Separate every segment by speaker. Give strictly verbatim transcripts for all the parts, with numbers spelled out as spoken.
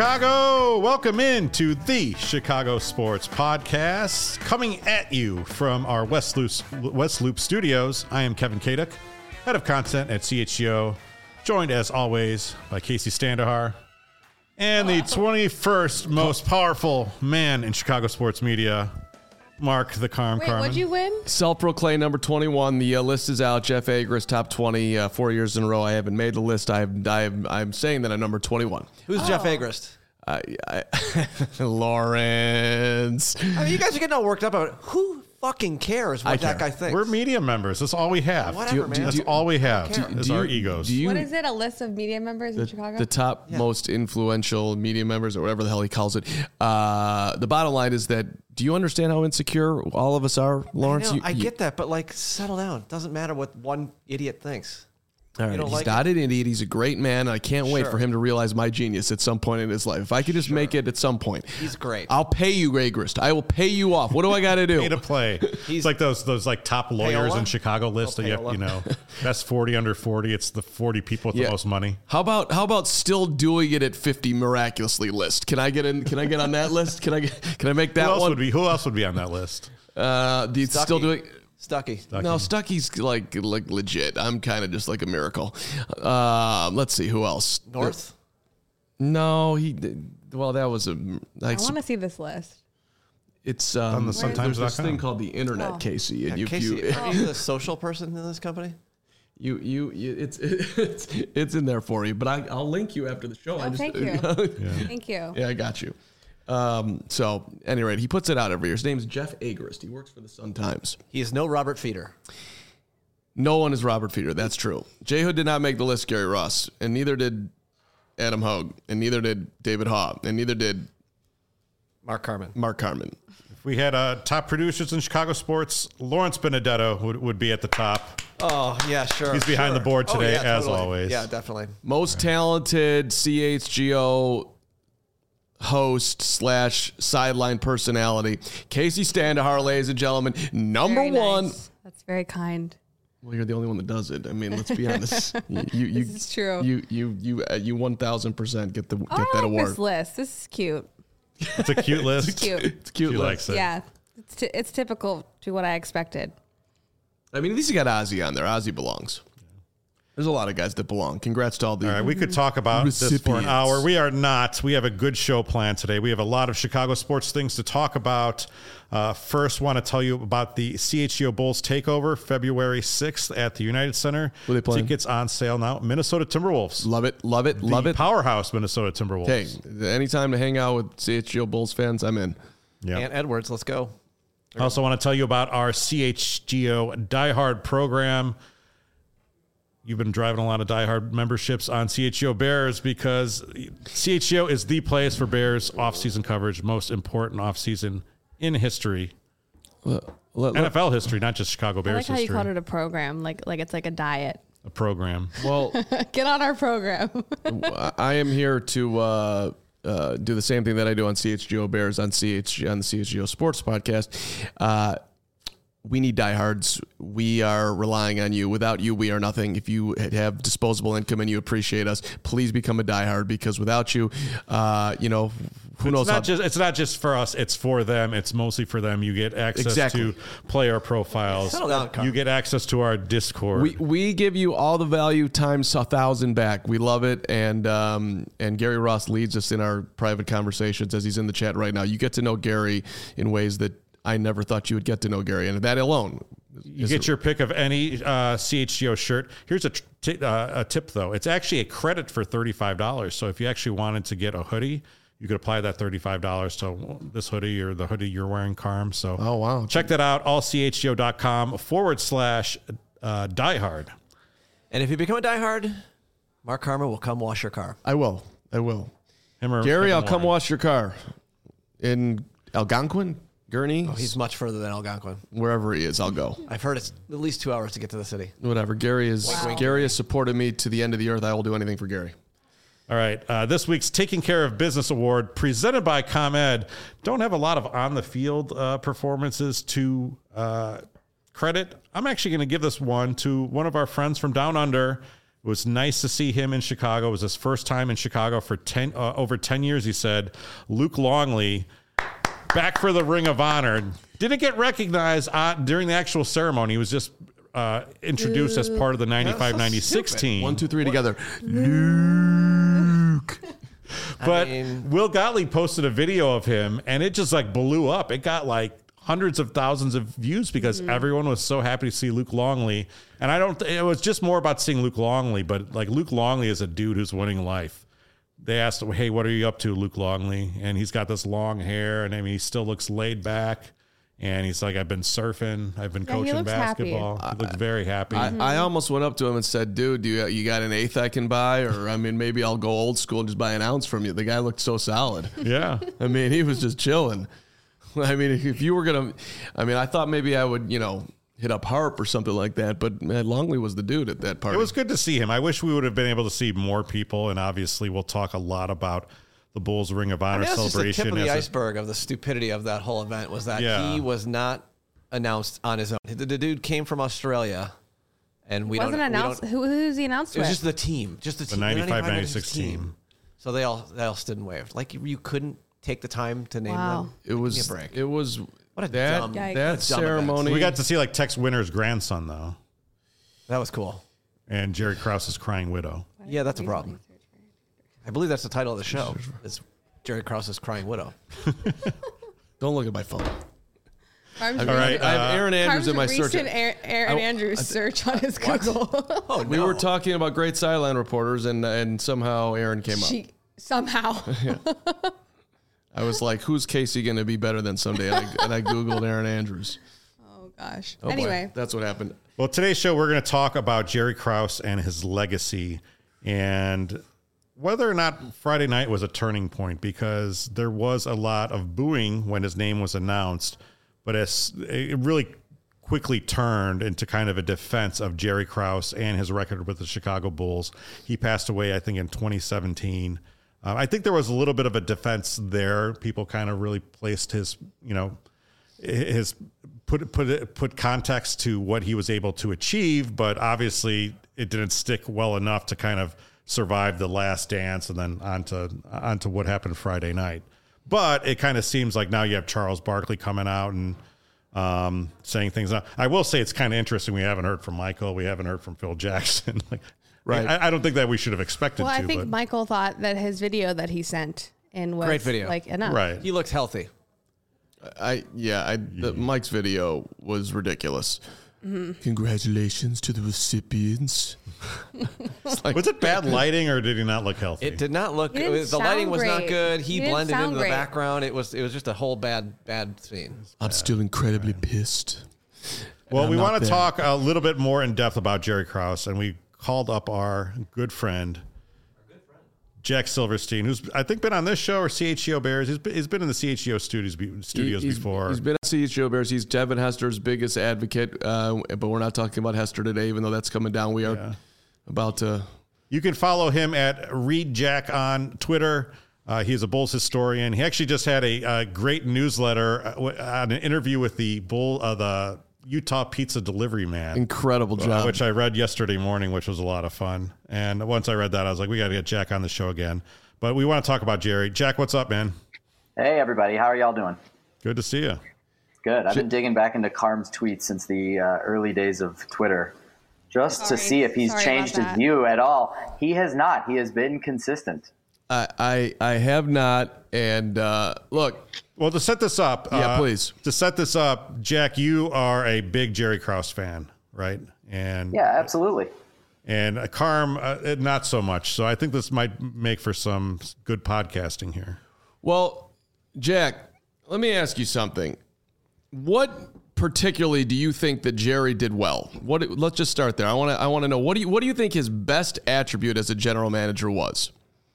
Speaker 1: Chicago! Welcome into the Chicago Sports Podcast. Coming at you from our West Loop, West Loop studios, I am Kevin Kaduk, head of content at C H G O, joined as always by Casey Standahar, and the twenty-first most powerful man in Chicago sports media, Mark the Carm
Speaker 2: Wait,
Speaker 1: Carmen.
Speaker 2: what'd you win?
Speaker 3: Self-proclaimed number twenty-one. The uh, list is out. Jeff Agris, top twenty, uh, four years in a row. I haven't made the list. I've, I've, I'm saying that I'm number twenty-one.
Speaker 4: Who's
Speaker 2: Oh.
Speaker 4: Jeff Agrist?
Speaker 3: I, I, Lawrence.
Speaker 4: I mean, you guys are getting all worked up about it. Who fucking cares what
Speaker 3: I
Speaker 4: that
Speaker 3: care.
Speaker 4: guy thinks?
Speaker 1: We're media members. That's all we have.
Speaker 4: Whatever,
Speaker 3: Do you-
Speaker 4: man.
Speaker 1: That's
Speaker 3: do you-
Speaker 1: all we have
Speaker 4: I don't care.
Speaker 1: is
Speaker 3: Do
Speaker 1: our
Speaker 3: you-
Speaker 1: egos.
Speaker 3: Do you,
Speaker 2: What is it? A list of media members in
Speaker 3: the,
Speaker 2: Chicago?
Speaker 3: the top
Speaker 4: Yeah.
Speaker 3: most influential media members, or whatever the hell he calls it. Uh, the bottom line is that, do you understand how insecure all of us are, Lawrence?
Speaker 4: I, know,
Speaker 3: You-
Speaker 4: I
Speaker 3: you-
Speaker 4: get that, but like, settle down. Doesn't matter what one idiot thinks.
Speaker 3: All right,
Speaker 4: You don't
Speaker 3: he's
Speaker 4: like
Speaker 3: not an idiot. He's a great man. I can't wait
Speaker 4: Sure.
Speaker 3: for him to realize my genius at some point in his life. If I could just make it at some point.
Speaker 4: He's great.
Speaker 3: I'll pay you, Agrist. I will pay you off. What do I got to do?
Speaker 1: Pay to play. It's like those those like top lawyers
Speaker 4: Payola?
Speaker 1: in Chicago list
Speaker 4: Oh,
Speaker 1: that you, have,
Speaker 4: payola.
Speaker 1: you know, best forty under forty. It's the forty people with
Speaker 3: Yeah.
Speaker 1: the most money.
Speaker 3: How about how about still doing it at fifty miraculously list? Can I get in? Can I get on that list? Can I get, can I make that
Speaker 1: Who else
Speaker 3: one?
Speaker 1: would be? Who else would be on that list?
Speaker 3: uh, the
Speaker 4: Stuckey.
Speaker 3: still doing.
Speaker 4: Stucky.
Speaker 3: No, Stucky's like like legit. I'm kind of just like a miracle. Uh, let's see who else.
Speaker 4: North?
Speaker 3: No, he. Well, that was a.
Speaker 2: I
Speaker 3: Like,
Speaker 2: want to see this list.
Speaker 3: it's um,
Speaker 1: On the
Speaker 3: there's
Speaker 1: Suntimes dot
Speaker 3: this
Speaker 1: com.
Speaker 3: thing called the internet,
Speaker 2: Oh.
Speaker 3: Casey, and
Speaker 4: Yeah,
Speaker 3: you,
Speaker 4: Casey,
Speaker 3: you,
Speaker 4: are you the social person in this company?
Speaker 3: you, you, you, it's it's it's in there for you. But I, I'll link you after the show. I
Speaker 2: Oh,
Speaker 3: just,
Speaker 2: thank you.
Speaker 1: Yeah.
Speaker 2: Thank you.
Speaker 3: Yeah, I got you. Um, so, at any rate, he puts it out every year. His name's Jeff Agrist. He works for the Sun-Times.
Speaker 4: He is no Robert Feeder.
Speaker 3: No one is Robert Feeder. That's true. J. Hood did not make the list, Gary Ross, and neither did Adam Hogue, and neither did David Haw, and neither did
Speaker 4: Mark Carmen.
Speaker 3: Mark Carmen.
Speaker 1: If we had uh, top producers in Chicago sports, Lawrence Benedetto would, would be at the top.
Speaker 4: Oh, yeah, sure.
Speaker 1: He's behind
Speaker 4: sure.
Speaker 1: the board
Speaker 4: Oh,
Speaker 1: today,
Speaker 4: yeah,
Speaker 1: as
Speaker 4: totally.
Speaker 1: always.
Speaker 4: Yeah, definitely.
Speaker 3: Most talented C H G O host slash sideline personality, Casey Standahar, ladies and gentlemen, number
Speaker 2: Very
Speaker 3: one.
Speaker 2: nice. That's very kind.
Speaker 3: Well, you're the only one that does it. I mean, let's be honest. You, you, you,
Speaker 2: This is true.
Speaker 3: You, you, you, uh, you, one thousand percent get the get
Speaker 2: Oh,
Speaker 3: that
Speaker 2: I like
Speaker 3: award.
Speaker 2: this list. This is cute.
Speaker 1: It's a cute list.
Speaker 2: Cute.
Speaker 3: It's cute.
Speaker 1: She
Speaker 3: list.
Speaker 1: likes it.
Speaker 2: Yeah. It's, t- it's typical to what I expected.
Speaker 3: I mean, at least you got Ozzy on there. Ozzy belongs. There's a lot of guys that belong. Congrats to all the.
Speaker 1: All right, we could talk about this for an
Speaker 3: Recipients.
Speaker 1: hour. We are not. We have a good show planned today. We have a lot of Chicago sports things to talk about. Uh, first, want to tell you about the C H G O Bulls takeover, February sixth at the United Center.
Speaker 3: Who they playing?
Speaker 1: Tickets on sale now. Minnesota Timberwolves.
Speaker 3: Love it, love it, love
Speaker 1: the
Speaker 3: it.
Speaker 1: Powerhouse Minnesota Timberwolves.
Speaker 3: Hey, anytime to hang out with C H G O Bulls fans, I'm in.
Speaker 1: Yeah.
Speaker 4: Ant Edwards, let's go.
Speaker 1: I also want to tell you about our C H G O Die Hard program. You've been driving a lot of Die Hard memberships on C H G O Bears because C H G O is the place for Bears off-season coverage, most important off-season in history,
Speaker 3: Let- let-
Speaker 1: N F L history, not just Chicago
Speaker 2: I
Speaker 1: Bears
Speaker 2: like how you
Speaker 1: history.
Speaker 2: called it a program, like like it's like a diet.
Speaker 1: A program.
Speaker 3: well,
Speaker 2: Get on our program.
Speaker 3: I am here to uh, uh, do the same thing that I do on C H G O Bears on C H on the C H G O Sports podcast. Uh, we need diehards. We are relying on you. Without you, we are nothing. If you have disposable income and you appreciate us, please become a diehard because without you, uh, you know, who
Speaker 1: It's
Speaker 3: knows how.
Speaker 1: not just it's not just for us, it's for them. It's mostly for them. You get access
Speaker 3: Exactly.
Speaker 1: to player profiles.
Speaker 4: Settle down, Carl.
Speaker 1: You get access to our Discord.
Speaker 3: We we give you all the value times a thousand back. We love it, and um, and Gary Ross leads us in our private conversations as he's in the chat right now. You get to know Gary in ways that I never thought you would get to know Gary, and that alone.
Speaker 1: You get your pick of any uh, C H G O shirt. Here's a, tr- t- uh, a tip, though. It's actually a credit for thirty-five dollars. So if you actually wanted to get a hoodie, you could apply that thirty-five dollars to this hoodie or the hoodie you're wearing, Carm. So
Speaker 3: Oh, wow.
Speaker 1: check that out, all C H G O dot com forward slash uh, diehard.
Speaker 4: And if you become a diehard, Mark Carmen will come wash your car.
Speaker 3: I will. I will.
Speaker 1: Him or
Speaker 3: Gary,
Speaker 1: him
Speaker 3: I'll
Speaker 1: or
Speaker 3: come
Speaker 1: Warren.
Speaker 3: wash your car in Algonquin, Gurney,
Speaker 4: Oh, he's much further than Algonquin.
Speaker 3: wherever he is. I'll go.
Speaker 4: I've heard it's at least two hours to get to the city.
Speaker 3: Whatever. Gary is.
Speaker 2: Wow.
Speaker 3: Gary has supported me to the end of the earth. I will do anything for Gary.
Speaker 1: All right. Uh, this week's Taking Care of Business Award presented by ComEd. Don't have a lot of on-the-field uh, performances to uh, credit. I'm actually going to give this one to one of our friends from Down Under, It was nice to see him in Chicago. It was his first time in Chicago for ten uh, over ten years, he said. Luke Longley, back for the Ring of Honor. Didn't get recognized uh, during the actual ceremony. He was just uh, introduced as part of the ninety-five ninety-six team.
Speaker 3: One, two, three together. Luke.
Speaker 1: But
Speaker 4: I mean,
Speaker 1: Will Gottlieb posted a video of him, and it just like blew up. It got like hundreds of thousands of views because mm-hmm. everyone was so happy to see Luke Longley. And I don't, it was just more about seeing Luke Longley, but like Luke Longley is a dude who's winning life. They asked him, hey, what are you up to, Luke Longley? And he's got this long hair, and I mean, he still looks laid back. And he's like, I've been surfing. I've been
Speaker 2: Yeah, he
Speaker 1: coaching
Speaker 2: looks
Speaker 1: basketball.
Speaker 2: happy.
Speaker 1: He looks very happy.
Speaker 3: I, I almost went up to him and said, dude, do you, you got an eighth I can buy? Or, I mean, maybe I'll go old school and just buy an ounce from you. The guy looked so solid.
Speaker 1: yeah.
Speaker 3: I mean, he was just chilling. I mean, if you were going to, I mean, I thought maybe I would, you know, hit up Harp or something like that. But man, Longley was the dude at that party.
Speaker 1: It was good to see him. I wish we would have been able to see more people. And obviously, we'll talk a lot about the Bulls Ring of Honor
Speaker 4: I mean, that's
Speaker 1: celebration.
Speaker 4: just the tip of the
Speaker 1: as
Speaker 4: iceberg of the stupidity of that whole event was that
Speaker 1: Yeah.
Speaker 4: he was not announced on his own. The, the dude came from Australia, and we
Speaker 2: Wasn't
Speaker 4: don't.
Speaker 2: announced.
Speaker 4: We
Speaker 2: Who who's he announced
Speaker 4: don't, it was
Speaker 2: with?
Speaker 4: just the team, just the
Speaker 1: the
Speaker 4: team,
Speaker 1: ninety-five ninety-six team.
Speaker 4: So they all they all stood and waved. Like you, you couldn't take the time to name
Speaker 2: Wow.
Speaker 4: them.
Speaker 3: It was,
Speaker 4: Give me a break.
Speaker 3: it was,
Speaker 4: What a
Speaker 3: that,
Speaker 4: dumb-
Speaker 2: Yikes.
Speaker 3: that
Speaker 4: What a dumb
Speaker 3: ceremony.
Speaker 1: We got to see like Tex Winter's grandson, though,
Speaker 4: That was cool.
Speaker 1: and Jerry Krause's crying widow.
Speaker 4: Yeah, that's a problem. I believe that's the title of the show. Is Jerry Krause's Crying Widow.
Speaker 3: Don't look at my phone.
Speaker 2: Carm's
Speaker 3: I,
Speaker 1: All right,
Speaker 3: I have
Speaker 1: uh,
Speaker 3: Aaron Andrews in my search.
Speaker 2: recent Aaron, Aaron
Speaker 3: I-
Speaker 2: Andrews search on his Google.
Speaker 4: Oh,
Speaker 3: We
Speaker 4: no.
Speaker 3: were talking about great sideline reporters, and and somehow Aaron came up.
Speaker 2: she somehow.
Speaker 3: I was like, "Who's Casey going to be better than someday?" And I, and I googled Aaron Andrews.
Speaker 2: Oh gosh.
Speaker 3: Oh, boy.
Speaker 2: Anyway,
Speaker 3: That's what happened.
Speaker 1: Well, today's show, we're going to talk about Jerry Krause and his legacy and whether or not Friday night was a turning point, because there was a lot of booing when his name was announced, but as it really quickly turned into kind of a defense of Jerry Krause and his record with the Chicago Bulls. He passed away, I think, in twenty seventeen. Uh, I think there was a little bit of a defense there. People kind of really placed his, you know, his put put put context to what he was able to achieve, but obviously it didn't stick well enough to kind of survive the Last Dance and then onto onto what happened Friday night. But it kind of seems like now you have Charles Barkley coming out and um, saying things. I will say it's kind of interesting. We haven't heard from Michael. We haven't heard from Phil Jackson. like,
Speaker 3: Right.
Speaker 1: I, I don't think that we should have expected
Speaker 2: well,
Speaker 1: to.
Speaker 2: I think
Speaker 1: but,
Speaker 2: Michael thought that his video that he sent in was
Speaker 4: Great video.
Speaker 2: like enough.
Speaker 1: right.
Speaker 4: He looks healthy.
Speaker 3: I yeah, I the, Mike's video was ridiculous. Congratulations to the recipients. It's like,
Speaker 1: Was it bad lighting or did he not look healthy?
Speaker 4: It did not look.
Speaker 2: He
Speaker 4: It
Speaker 2: didn't
Speaker 4: was, the lighting
Speaker 2: sound
Speaker 4: was not
Speaker 2: great.
Speaker 4: good. He,
Speaker 2: He didn't
Speaker 4: blended
Speaker 2: sound
Speaker 4: into the
Speaker 2: great.
Speaker 4: background. It was. It was just a whole bad, bad scene.
Speaker 3: I'm still incredibly pissed.
Speaker 1: Well,
Speaker 3: I'm
Speaker 1: we
Speaker 3: not
Speaker 1: want to
Speaker 3: there.
Speaker 1: talk a little bit more in depth about Jerry Krause, and we called up our good friend, Jack Silverstein, who's I think been on this show or C H G O Bears. He's been, he's been in the C H G O studios be- studios
Speaker 3: He's-
Speaker 1: before.
Speaker 3: He's been at C H G O Bears. He's Devin Hester's biggest advocate, uh, but we're not talking about Hester today, even though that's coming down. We are
Speaker 1: Yeah.
Speaker 3: about to.
Speaker 1: You can follow him at Read Jack on Twitter. Uh, he's a Bulls historian. He actually just had a, a great newsletter uh, w- on an interview with the Bull, uh, the Utah Pizza Delivery Man.
Speaker 3: Incredible
Speaker 1: Uh,
Speaker 3: job.
Speaker 1: which I read yesterday morning, which was a lot of fun. And once I read that, I was like, we got to get Jack on the show again. But we want to talk about Jerry. Jack, what's up, man?
Speaker 5: Hey, everybody. How are y'all doing?
Speaker 1: Good to see you.
Speaker 5: Good. I've been digging back into Carm's tweets since the uh, early days of Twitter just
Speaker 2: Sorry.
Speaker 5: to see if he's
Speaker 2: Sorry
Speaker 5: changed
Speaker 2: about
Speaker 5: his
Speaker 2: that.
Speaker 5: view at all. He has not. He has been consistent.
Speaker 3: I, I I have not. And uh, look,
Speaker 1: Well, to set this up,
Speaker 3: Yeah,
Speaker 1: uh,
Speaker 3: please.
Speaker 1: To set this up, Jack, you are a big Jerry Krause fan, right? And
Speaker 5: Yeah, absolutely.
Speaker 1: and uh, Carm, uh, not so much. So I think this might make for some good podcasting here.
Speaker 3: well, Jack, let me ask you something. What particularly do you think that Jerry did well? What? Let's just start there. I want to. I want to know what do you what do you think his best attribute as a general manager was?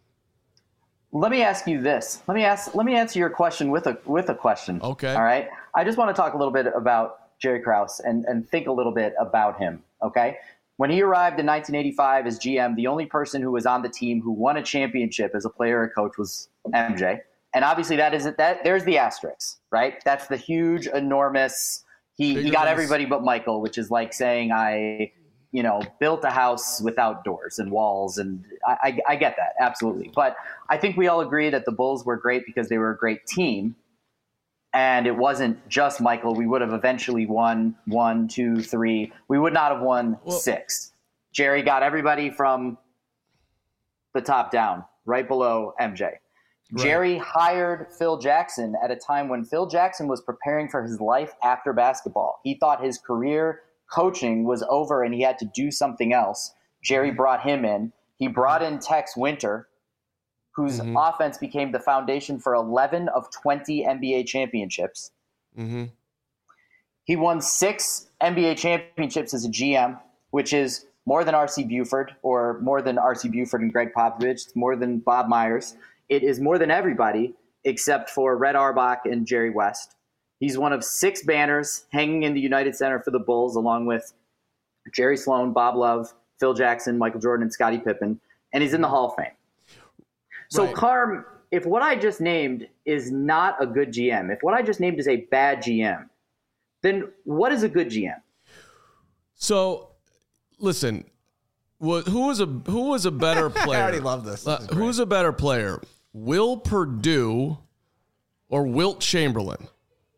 Speaker 5: Let me ask you this. Let me ask. Let me answer your question with a with a question.
Speaker 3: Okay.
Speaker 5: All right. I just want to talk a little bit about Jerry Krause and and think a little bit about him. Okay. When he arrived in nineteen eighty-five as G M, the only person who was on the team who won a championship as a player or coach was M J. And obviously, that isn't that. There's the asterisk, right? That's the huge, enormous. He, he
Speaker 3: Bigger
Speaker 5: got
Speaker 3: than-
Speaker 5: everybody but Michael, which is like saying I you know, built a house without doors and walls. And I, I, I get that. Absolutely. But I think we all agree that the Bulls were great because they were a great team. And it wasn't just Michael. We would have eventually won one, two, three. We would not have won well, six. Jerry got everybody from the top down, right below M J. Right. Jerry hired Phil Jackson at a time when Phil Jackson was preparing for his life after basketball. He thought his career coaching was over and he had to do something else. Jerry brought him in. He brought in Tex Winter, whose mm-hmm. offense became the foundation for eleven of twenty N B A championships. Mm-hmm. He won six N B A championships as a G M, which is more than R C Buford or more than R C Buford and Greg Popovich. It's more than Bob Myers. It is more than everybody except for Red Auerbach and Jerry West. He's one of six banners hanging in the United Center for the Bulls, along with Jerry Sloan, Bob Love, Phil Jackson, Michael Jordan, and Scottie Pippen, and he's in the Hall of Fame. So, right. Carm, if what I just named is not a good G M, if what I just named is a bad G M, then what is a good G M?
Speaker 3: So, listen, who was a who was a better player?
Speaker 4: I already love this. this
Speaker 3: uh, who's a better player, Will Perdue or Wilt Chamberlain?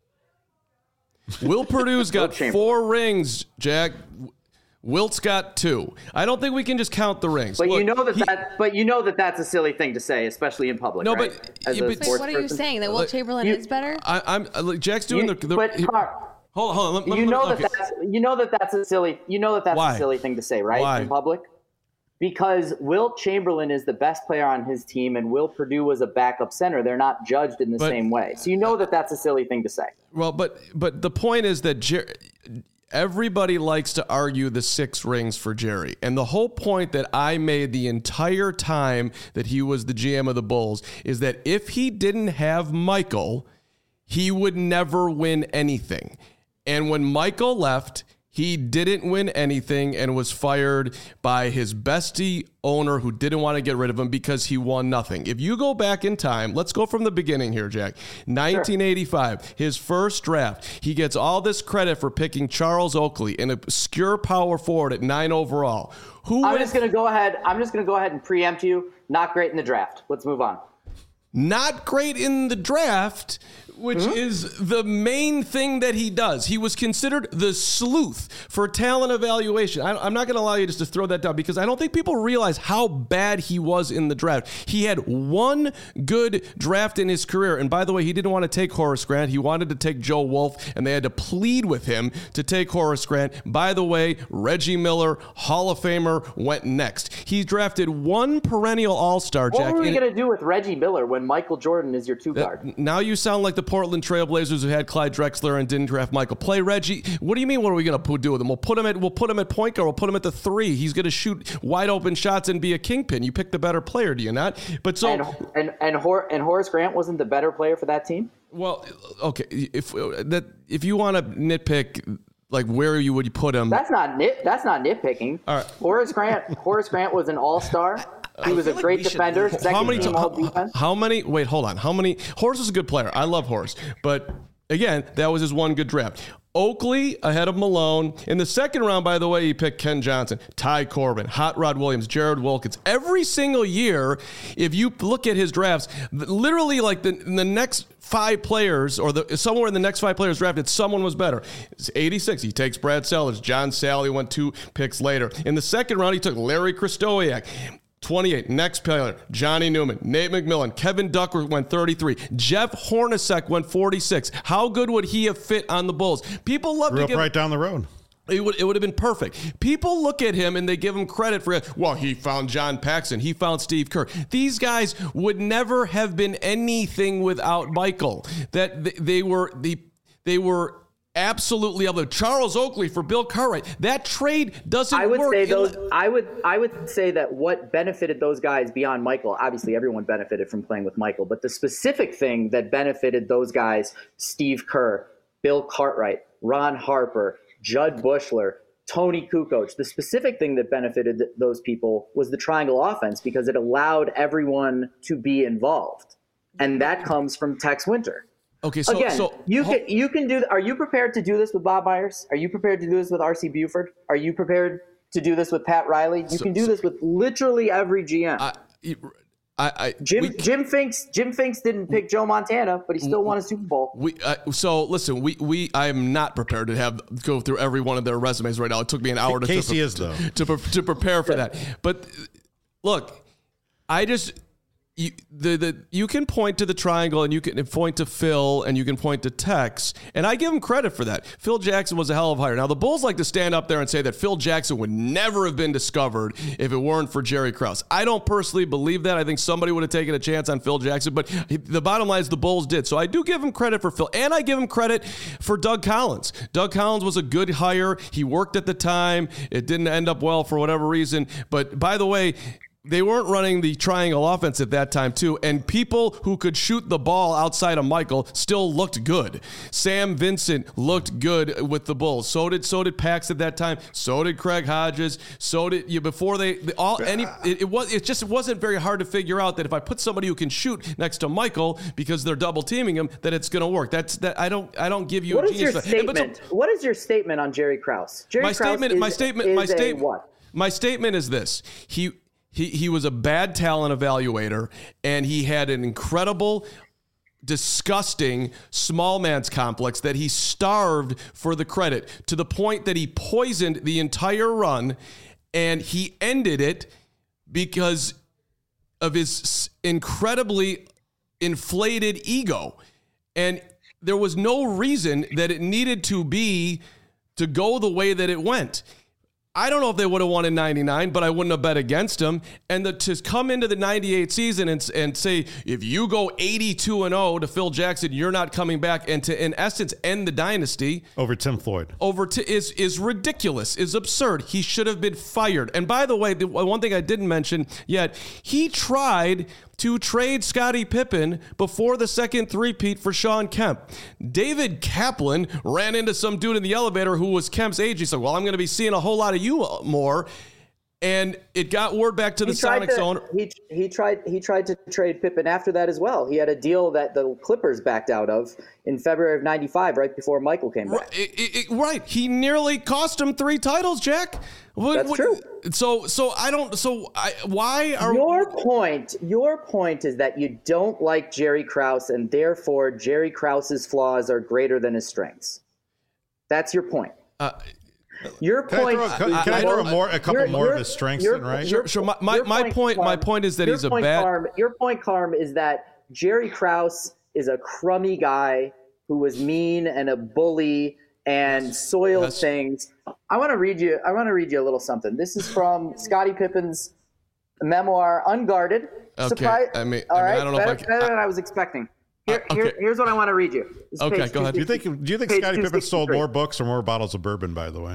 Speaker 3: Will Purdue's got four rings, Jack. Wilt's got two. I don't think we can just count the rings.
Speaker 5: But
Speaker 3: Look,
Speaker 5: you know that,
Speaker 3: he,
Speaker 5: that but you know that that's a silly thing to say, especially in public.
Speaker 3: No,
Speaker 5: right?
Speaker 3: but,
Speaker 5: As
Speaker 3: yeah,
Speaker 5: a
Speaker 3: but
Speaker 2: Wait, what are you
Speaker 5: person.
Speaker 2: saying? That Wilt Chamberlain
Speaker 5: you,
Speaker 2: is better?
Speaker 3: I, I'm like Jack's doing
Speaker 5: you,
Speaker 3: the. the
Speaker 5: but
Speaker 3: he,
Speaker 5: Car,
Speaker 3: hold on, hold on. Let, let,
Speaker 5: you know
Speaker 3: let,
Speaker 5: that
Speaker 3: okay.
Speaker 5: that's you know that that's a silly you know that that's
Speaker 3: Why?
Speaker 5: a silly thing to say, right?
Speaker 3: Why?
Speaker 5: In public. Because Wilt Chamberlain is the best player on his team, and Will Perdue was a backup center. They're not judged in the
Speaker 3: but,
Speaker 5: same way. So you know that that's a silly thing to say.
Speaker 3: Well, but but the point is that Jer- everybody likes to argue the six rings for Jerry. And the whole point that I made the entire time that he was the G M of the Bulls is that if he didn't have Michael, he would never win anything. And when Michael left, he didn't win anything and was fired by his bestie owner who didn't want to get rid of him because he won nothing. If you go back in time, let's go from the beginning here, Jack. nineteen eighty-five, sure. His first draft, he gets all this credit for picking Charles Oakley, an obscure power forward at nine overall. Who
Speaker 5: I'm
Speaker 3: went,
Speaker 5: just going to go ahead. I'm just going to go ahead and preempt you. Not great in the draft. Let's move on.
Speaker 3: Not great in the draft, which mm-hmm. is the main thing that he does. He was considered the sleuth for talent evaluation. I, I'm not going to allow you just to throw that down because I don't think people realize how bad he was in the draft. He had one good draft in his career. And by the way, he didn't want to take Horace Grant. He wanted to take Joe Wolf, and they had to plead with him to take Horace Grant. By the way, Reggie Miller, Hall of Famer, went next. He drafted one perennial all-star, Jack.
Speaker 5: What were we going to do with Reggie Miller when Michael Jordan is your two guard?
Speaker 3: Uh, now you sound like the Portland Trailblazers who had Clyde Drexler and didn't draft Michael. Play Reggie. What do you mean? What are we going to do with him? We'll put him at we'll put him at point guard. We'll put him at the three. He's going to shoot wide open shots and be a kingpin. You pick the better player, do you not? But so
Speaker 5: and and and, Hor- and Horace Grant wasn't the better player for that team.
Speaker 3: Well, okay. If that if you want to nitpick, like where you would you put him?
Speaker 5: That's not nit. That's not nitpicking.
Speaker 3: All right.
Speaker 5: Horace Grant. Horace Grant was an all-star. He was a
Speaker 4: like
Speaker 5: great defender.
Speaker 4: Should,
Speaker 5: second
Speaker 3: how many?
Speaker 5: team
Speaker 3: How,
Speaker 5: all-defense.
Speaker 3: how many? Wait, hold on. How many? Horace is a good player. I love Horace, but again, that was his one good draft. Oakley ahead of Malone. In the second round, by the way, he picked Ken Johnson, Ty Corbin, Hot Rod Williams, Jared Wilkins. Every single year, if you look at his drafts, literally like the, the next five players or the somewhere in the next five players drafted, someone was better. It's eighty-six. He takes Brad Sellers. John Sally went two picks later. In the second round, he took Larry Krystowiak. twenty-eight, next player, Johnny Newman, Nate McMillan, Kevin Duckworth went thirty-three, Jeff Hornacek went forty-six. How good would he have fit on the Bulls? People love
Speaker 1: Grew
Speaker 3: to
Speaker 1: up
Speaker 3: give
Speaker 1: right down the road.
Speaker 3: It would it would have been perfect. People look at him and they give him credit for it. Well, he found John Paxson. He found Steve Kerr. These guys would never have been anything without Michael. That they, they were the they were. Absolutely, able. Charles Oakley for Bill Cartwright. That trade doesn't
Speaker 5: I would
Speaker 3: work.
Speaker 5: say those. I would. I would say that what benefited those guys beyond Michael. Obviously, everyone benefited from playing with Michael, but the specific thing that benefited those guys: Steve Kerr, Bill Cartwright, Ron Harper, Judd Bushler, Tony Kukoc. The specific thing that benefited those people was the triangle offense because it allowed everyone to be involved, and that comes from Tex Winter.
Speaker 3: Okay, so
Speaker 5: again,
Speaker 3: so,
Speaker 5: you can you can do. Are you prepared to do this with Bob Myers? Are you prepared to do this with R C Buford? Are you prepared to do this with Pat Riley. You
Speaker 3: So-
Speaker 5: can do
Speaker 3: so-
Speaker 5: this with literally every G M.
Speaker 3: I, I, I
Speaker 5: Jim
Speaker 3: we,
Speaker 5: Jim Finks Jim Finks didn't pick Joe Montana, but he still won a Super Bowl.
Speaker 3: We uh, so listen. We we I am not prepared to have go through every one of their resumes right now. It took me an hour to
Speaker 1: Casey
Speaker 3: to,
Speaker 1: is, though.
Speaker 3: to, to, to prepare for that. But look, I just you, the the you can point to the triangle and you can point to Phil and you can point to Tex, and I give him credit for that. Phil Jackson was a hell of a hire. Now the Bulls like to stand up there and say that Phil Jackson would never have been discovered if it weren't for Jerry Krause. I don't personally believe that. I think somebody would have taken a chance on Phil Jackson, but the bottom line is the Bulls did. So I do give him credit for Phil, and I give him credit for Doug Collins. Doug Collins was a good hire. He worked at the time. It didn't end up well for whatever reason. But by the way, they weren't running the triangle offense at that time, too. And people who could shoot the ball outside of Michael still looked good. Sam Vincent looked good with the Bulls. So did so did Pax at that time. So did Craig Hodges. So did you before they, they all any it, it was it just it wasn't very hard to figure out that if I put somebody who can shoot next to Michael because they're double teaming him, that it's going to work. That's that I don't I don't give you
Speaker 5: What
Speaker 3: a
Speaker 5: is your
Speaker 3: genius for that. But so-
Speaker 5: statement? What is your statement on Jerry Krause? Jerry
Speaker 3: my
Speaker 5: Krause
Speaker 3: statement
Speaker 5: is,
Speaker 3: my statement
Speaker 5: is
Speaker 3: my
Speaker 5: a
Speaker 3: statement
Speaker 5: what?
Speaker 3: My statement is this. He He he was a bad talent evaluator, and he had an incredible, disgusting small man's complex that he starved for the credit to the point that he poisoned the entire run, and he ended it because of his incredibly inflated ego. And there was no reason that it needed to be to go the way that it went. I don't know if they would have won in ninety-nine, but I wouldn't have bet against them. And the, to come into the ninety-eight season and, and say, if you go eighty-two and oh to Phil Jackson, you're not coming back, and to, in essence, end the dynasty.
Speaker 1: Over Tim Floyd.
Speaker 3: Over to is is ridiculous, is absurd. He should have been fired. And by the way, the one thing I didn't mention yet, he tried to trade Scottie Pippen before the second three-peat for Sean Kemp. David Kaplan ran into some dude in the elevator who was Kemp's age. He said, well, I'm going to be seeing a whole lot of you more. And it got word back to the Sonics
Speaker 5: to,
Speaker 3: owner.
Speaker 5: He, he tried he tried to trade Pippen after that as well. He had a deal that the Clippers backed out of in February of ninety-five, right before Michael came back.
Speaker 3: Right. It, it, it, right. He nearly cost him three titles, Jack. What,
Speaker 5: That's
Speaker 3: what,
Speaker 5: true.
Speaker 3: So, so I don't. So, I, why are
Speaker 5: Your point, your point is that you don't like Jerry Krause, and therefore Jerry Krause's flaws are greater than his strengths. That's your point.
Speaker 3: Uh,
Speaker 5: Your
Speaker 1: Can
Speaker 5: point.
Speaker 1: I throw, can,
Speaker 5: is
Speaker 1: can I
Speaker 5: more-
Speaker 1: throw a, more, a couple
Speaker 5: your-
Speaker 1: more
Speaker 5: your-
Speaker 1: of his strengths
Speaker 5: your-
Speaker 1: then, right?
Speaker 3: Sure, sure. My, my,
Speaker 5: your
Speaker 3: my point, my
Speaker 5: Carm,
Speaker 3: point is that
Speaker 5: your
Speaker 3: he's a
Speaker 5: point,
Speaker 3: bad.
Speaker 5: Carm, your point, Carm, is that Jerry Krause is a crummy guy who was mean and a bully and soiled
Speaker 3: Yes.
Speaker 5: things. I want to read you. I want to read you a little something. This is from Scottie Pippen's memoir, Unguarded.
Speaker 3: Okay,
Speaker 5: Surprise-
Speaker 3: I mean-
Speaker 5: all
Speaker 3: I mean,
Speaker 5: right,
Speaker 3: I don't know if
Speaker 5: better,
Speaker 3: I can-
Speaker 5: better
Speaker 3: I-
Speaker 5: than I was expecting. Here,
Speaker 3: Uh,
Speaker 5: here-
Speaker 3: okay.
Speaker 5: here's what I want to read you. This is
Speaker 3: Okay,
Speaker 5: page
Speaker 3: go ahead.
Speaker 1: Do you think
Speaker 5: two sixty-three.
Speaker 1: do you think
Speaker 5: Page
Speaker 1: Scottie Pippen sold
Speaker 5: two sixty-three.
Speaker 1: more books or more bottles of bourbon, by the way?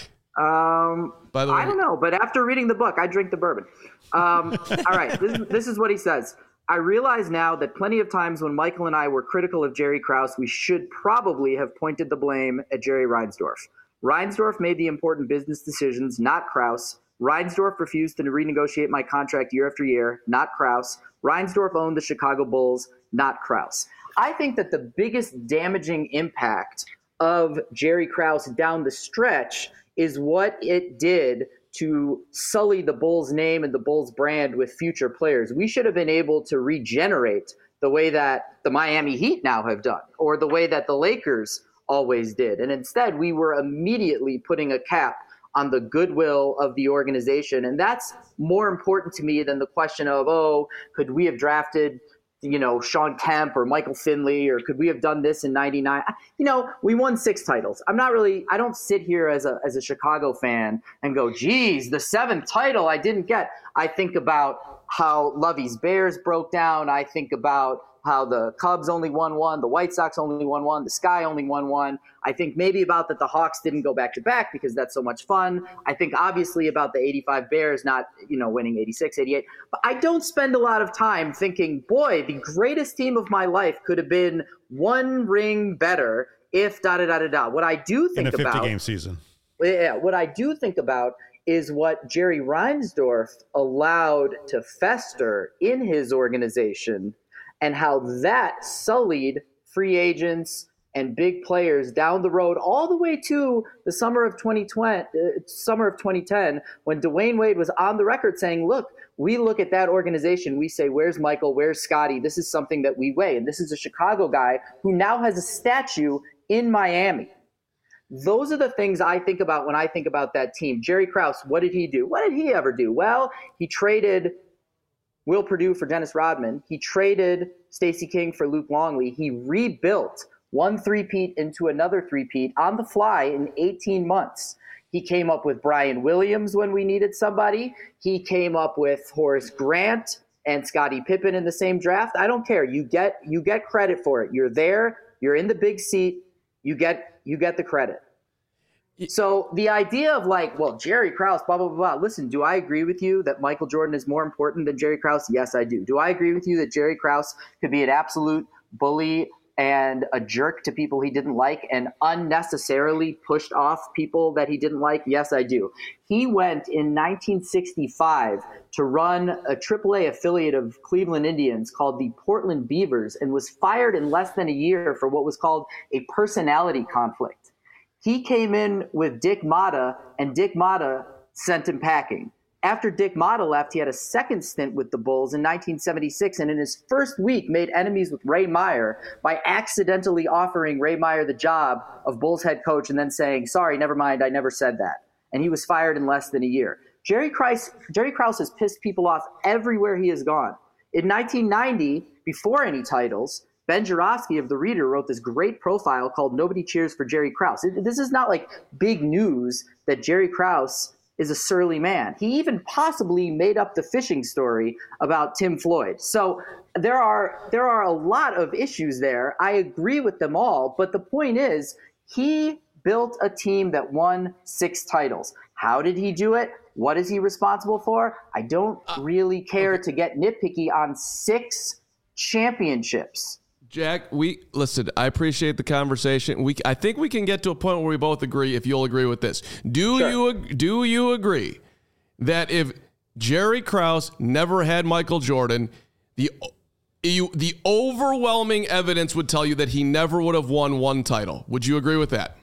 Speaker 5: Um,
Speaker 3: By the way-
Speaker 5: I don't know, but after reading the book, I drink the bourbon. Um, all right, this is, this is what he says. I realize now that plenty of times when Michael and I were critical of Jerry Krause, we should probably have pointed the blame at Jerry Reinsdorf. Reinsdorf made the important business decisions, not Krause. Reinsdorf refused to renegotiate my contract year after year, not Krause. Reinsdorf owned the Chicago Bulls, not Krause. I think that the biggest damaging impact of Jerry Krause down the stretch is what it did to sully the Bulls name and the Bulls brand with future players. We should have been able to regenerate the way that the Miami Heat now have done, or the way that the Lakers always did. And instead, we were immediately putting a cap on the goodwill of the organization. And that's more important to me than the question of, oh, could we have drafted, you know, Sean Kemp or Michael Finley, or could we have done this in ninety-nine? You know, we won six titles. I'm not really, I don't sit here as a as a Chicago fan and go, geez, the seventh title I didn't get. I think about how Lovey's Bears broke down. I think about how the Cubs only won one, the White Sox only won one, the Sky only won one. I think maybe about that the Hawks didn't go back to back because that's so much fun. I think obviously about the eighty-five Bears not, you know, winning eighty-six, eighty-eight. But I don't spend a lot of time thinking, boy, the greatest team of my life could have been one ring better if da da da da da. What I do
Speaker 1: In
Speaker 5: think
Speaker 1: a
Speaker 5: about
Speaker 1: fifty-game season.
Speaker 5: yeah, what I do think about is what Jerry Reinsdorf allowed to fester in his organization and how that sullied free agents, and big players down the road, all the way to the summer of twenty twenty, uh, summer of twenty ten, when Dwayne Wade was on the record saying, look, we look at that organization, we say, where's Michael, where's Scotty? This is something that we weigh. And this is a Chicago guy who now has a statue in Miami. Those are the things I think about when I think about that team. Jerry Krause, what did he do? What did he ever do? Well, he traded Will Perdue for Dennis Rodman. He traded Stacey King for Luke Longley. He rebuilt one three-peat into another three-peat on the fly in eighteen months. He came up with Brian Williams when we needed somebody. He came up with Horace Grant and Scottie Pippen in the same draft. I don't care. You get you get credit for it. You're there. You're in the big seat. You get you get the credit. So the idea of like, well, Jerry Krause, blah, blah, blah, blah. Listen, do I agree with you that Michael Jordan is more important than Jerry Krause? Yes, I do. Do I agree with you that Jerry Krause could be an absolute bully and a jerk to people he didn't like and unnecessarily pushed off people that he didn't like? Yes, I do. He went in nineteen sixty-five to run a triple A affiliate of Cleveland Indians called the Portland Beavers and was fired in less than a year for what was called a personality conflict. He came in with Dick Motta, and Dick Motta sent him packing. After Dick Motta left, he had a second stint with the Bulls in nineteen seventy-six, and in his first week made enemies with Ray Meyer by accidentally offering Ray Meyer the job of Bulls head coach and then saying, sorry, never mind, I never said that. And he was fired in less than a year. Jerry Krause, Jerry Krause has pissed people off everywhere he has gone. In nineteen ninety, before any titles, Ben Joravsky of The Reader wrote this great profile called Nobody Cheers for Jerry Krause. It, this is not like big news that Jerry Krause is a surly man. He even possibly made up the fishing story about Tim Floyd. So there are there are a lot of issues there. I agree with them all, but the point is he built a team that won six titles. How did he do it? What is he responsible for? I don't really care to get nitpicky on six championships.
Speaker 3: Jack, we listen, I appreciate the conversation. We I think we can get to a point where we both agree, if you'll agree with this. Do
Speaker 5: Sure.
Speaker 3: you do you agree that if Jerry Krause never had Michael Jordan, the you, the overwhelming evidence would tell you that he never would have won one title? Would you agree with that?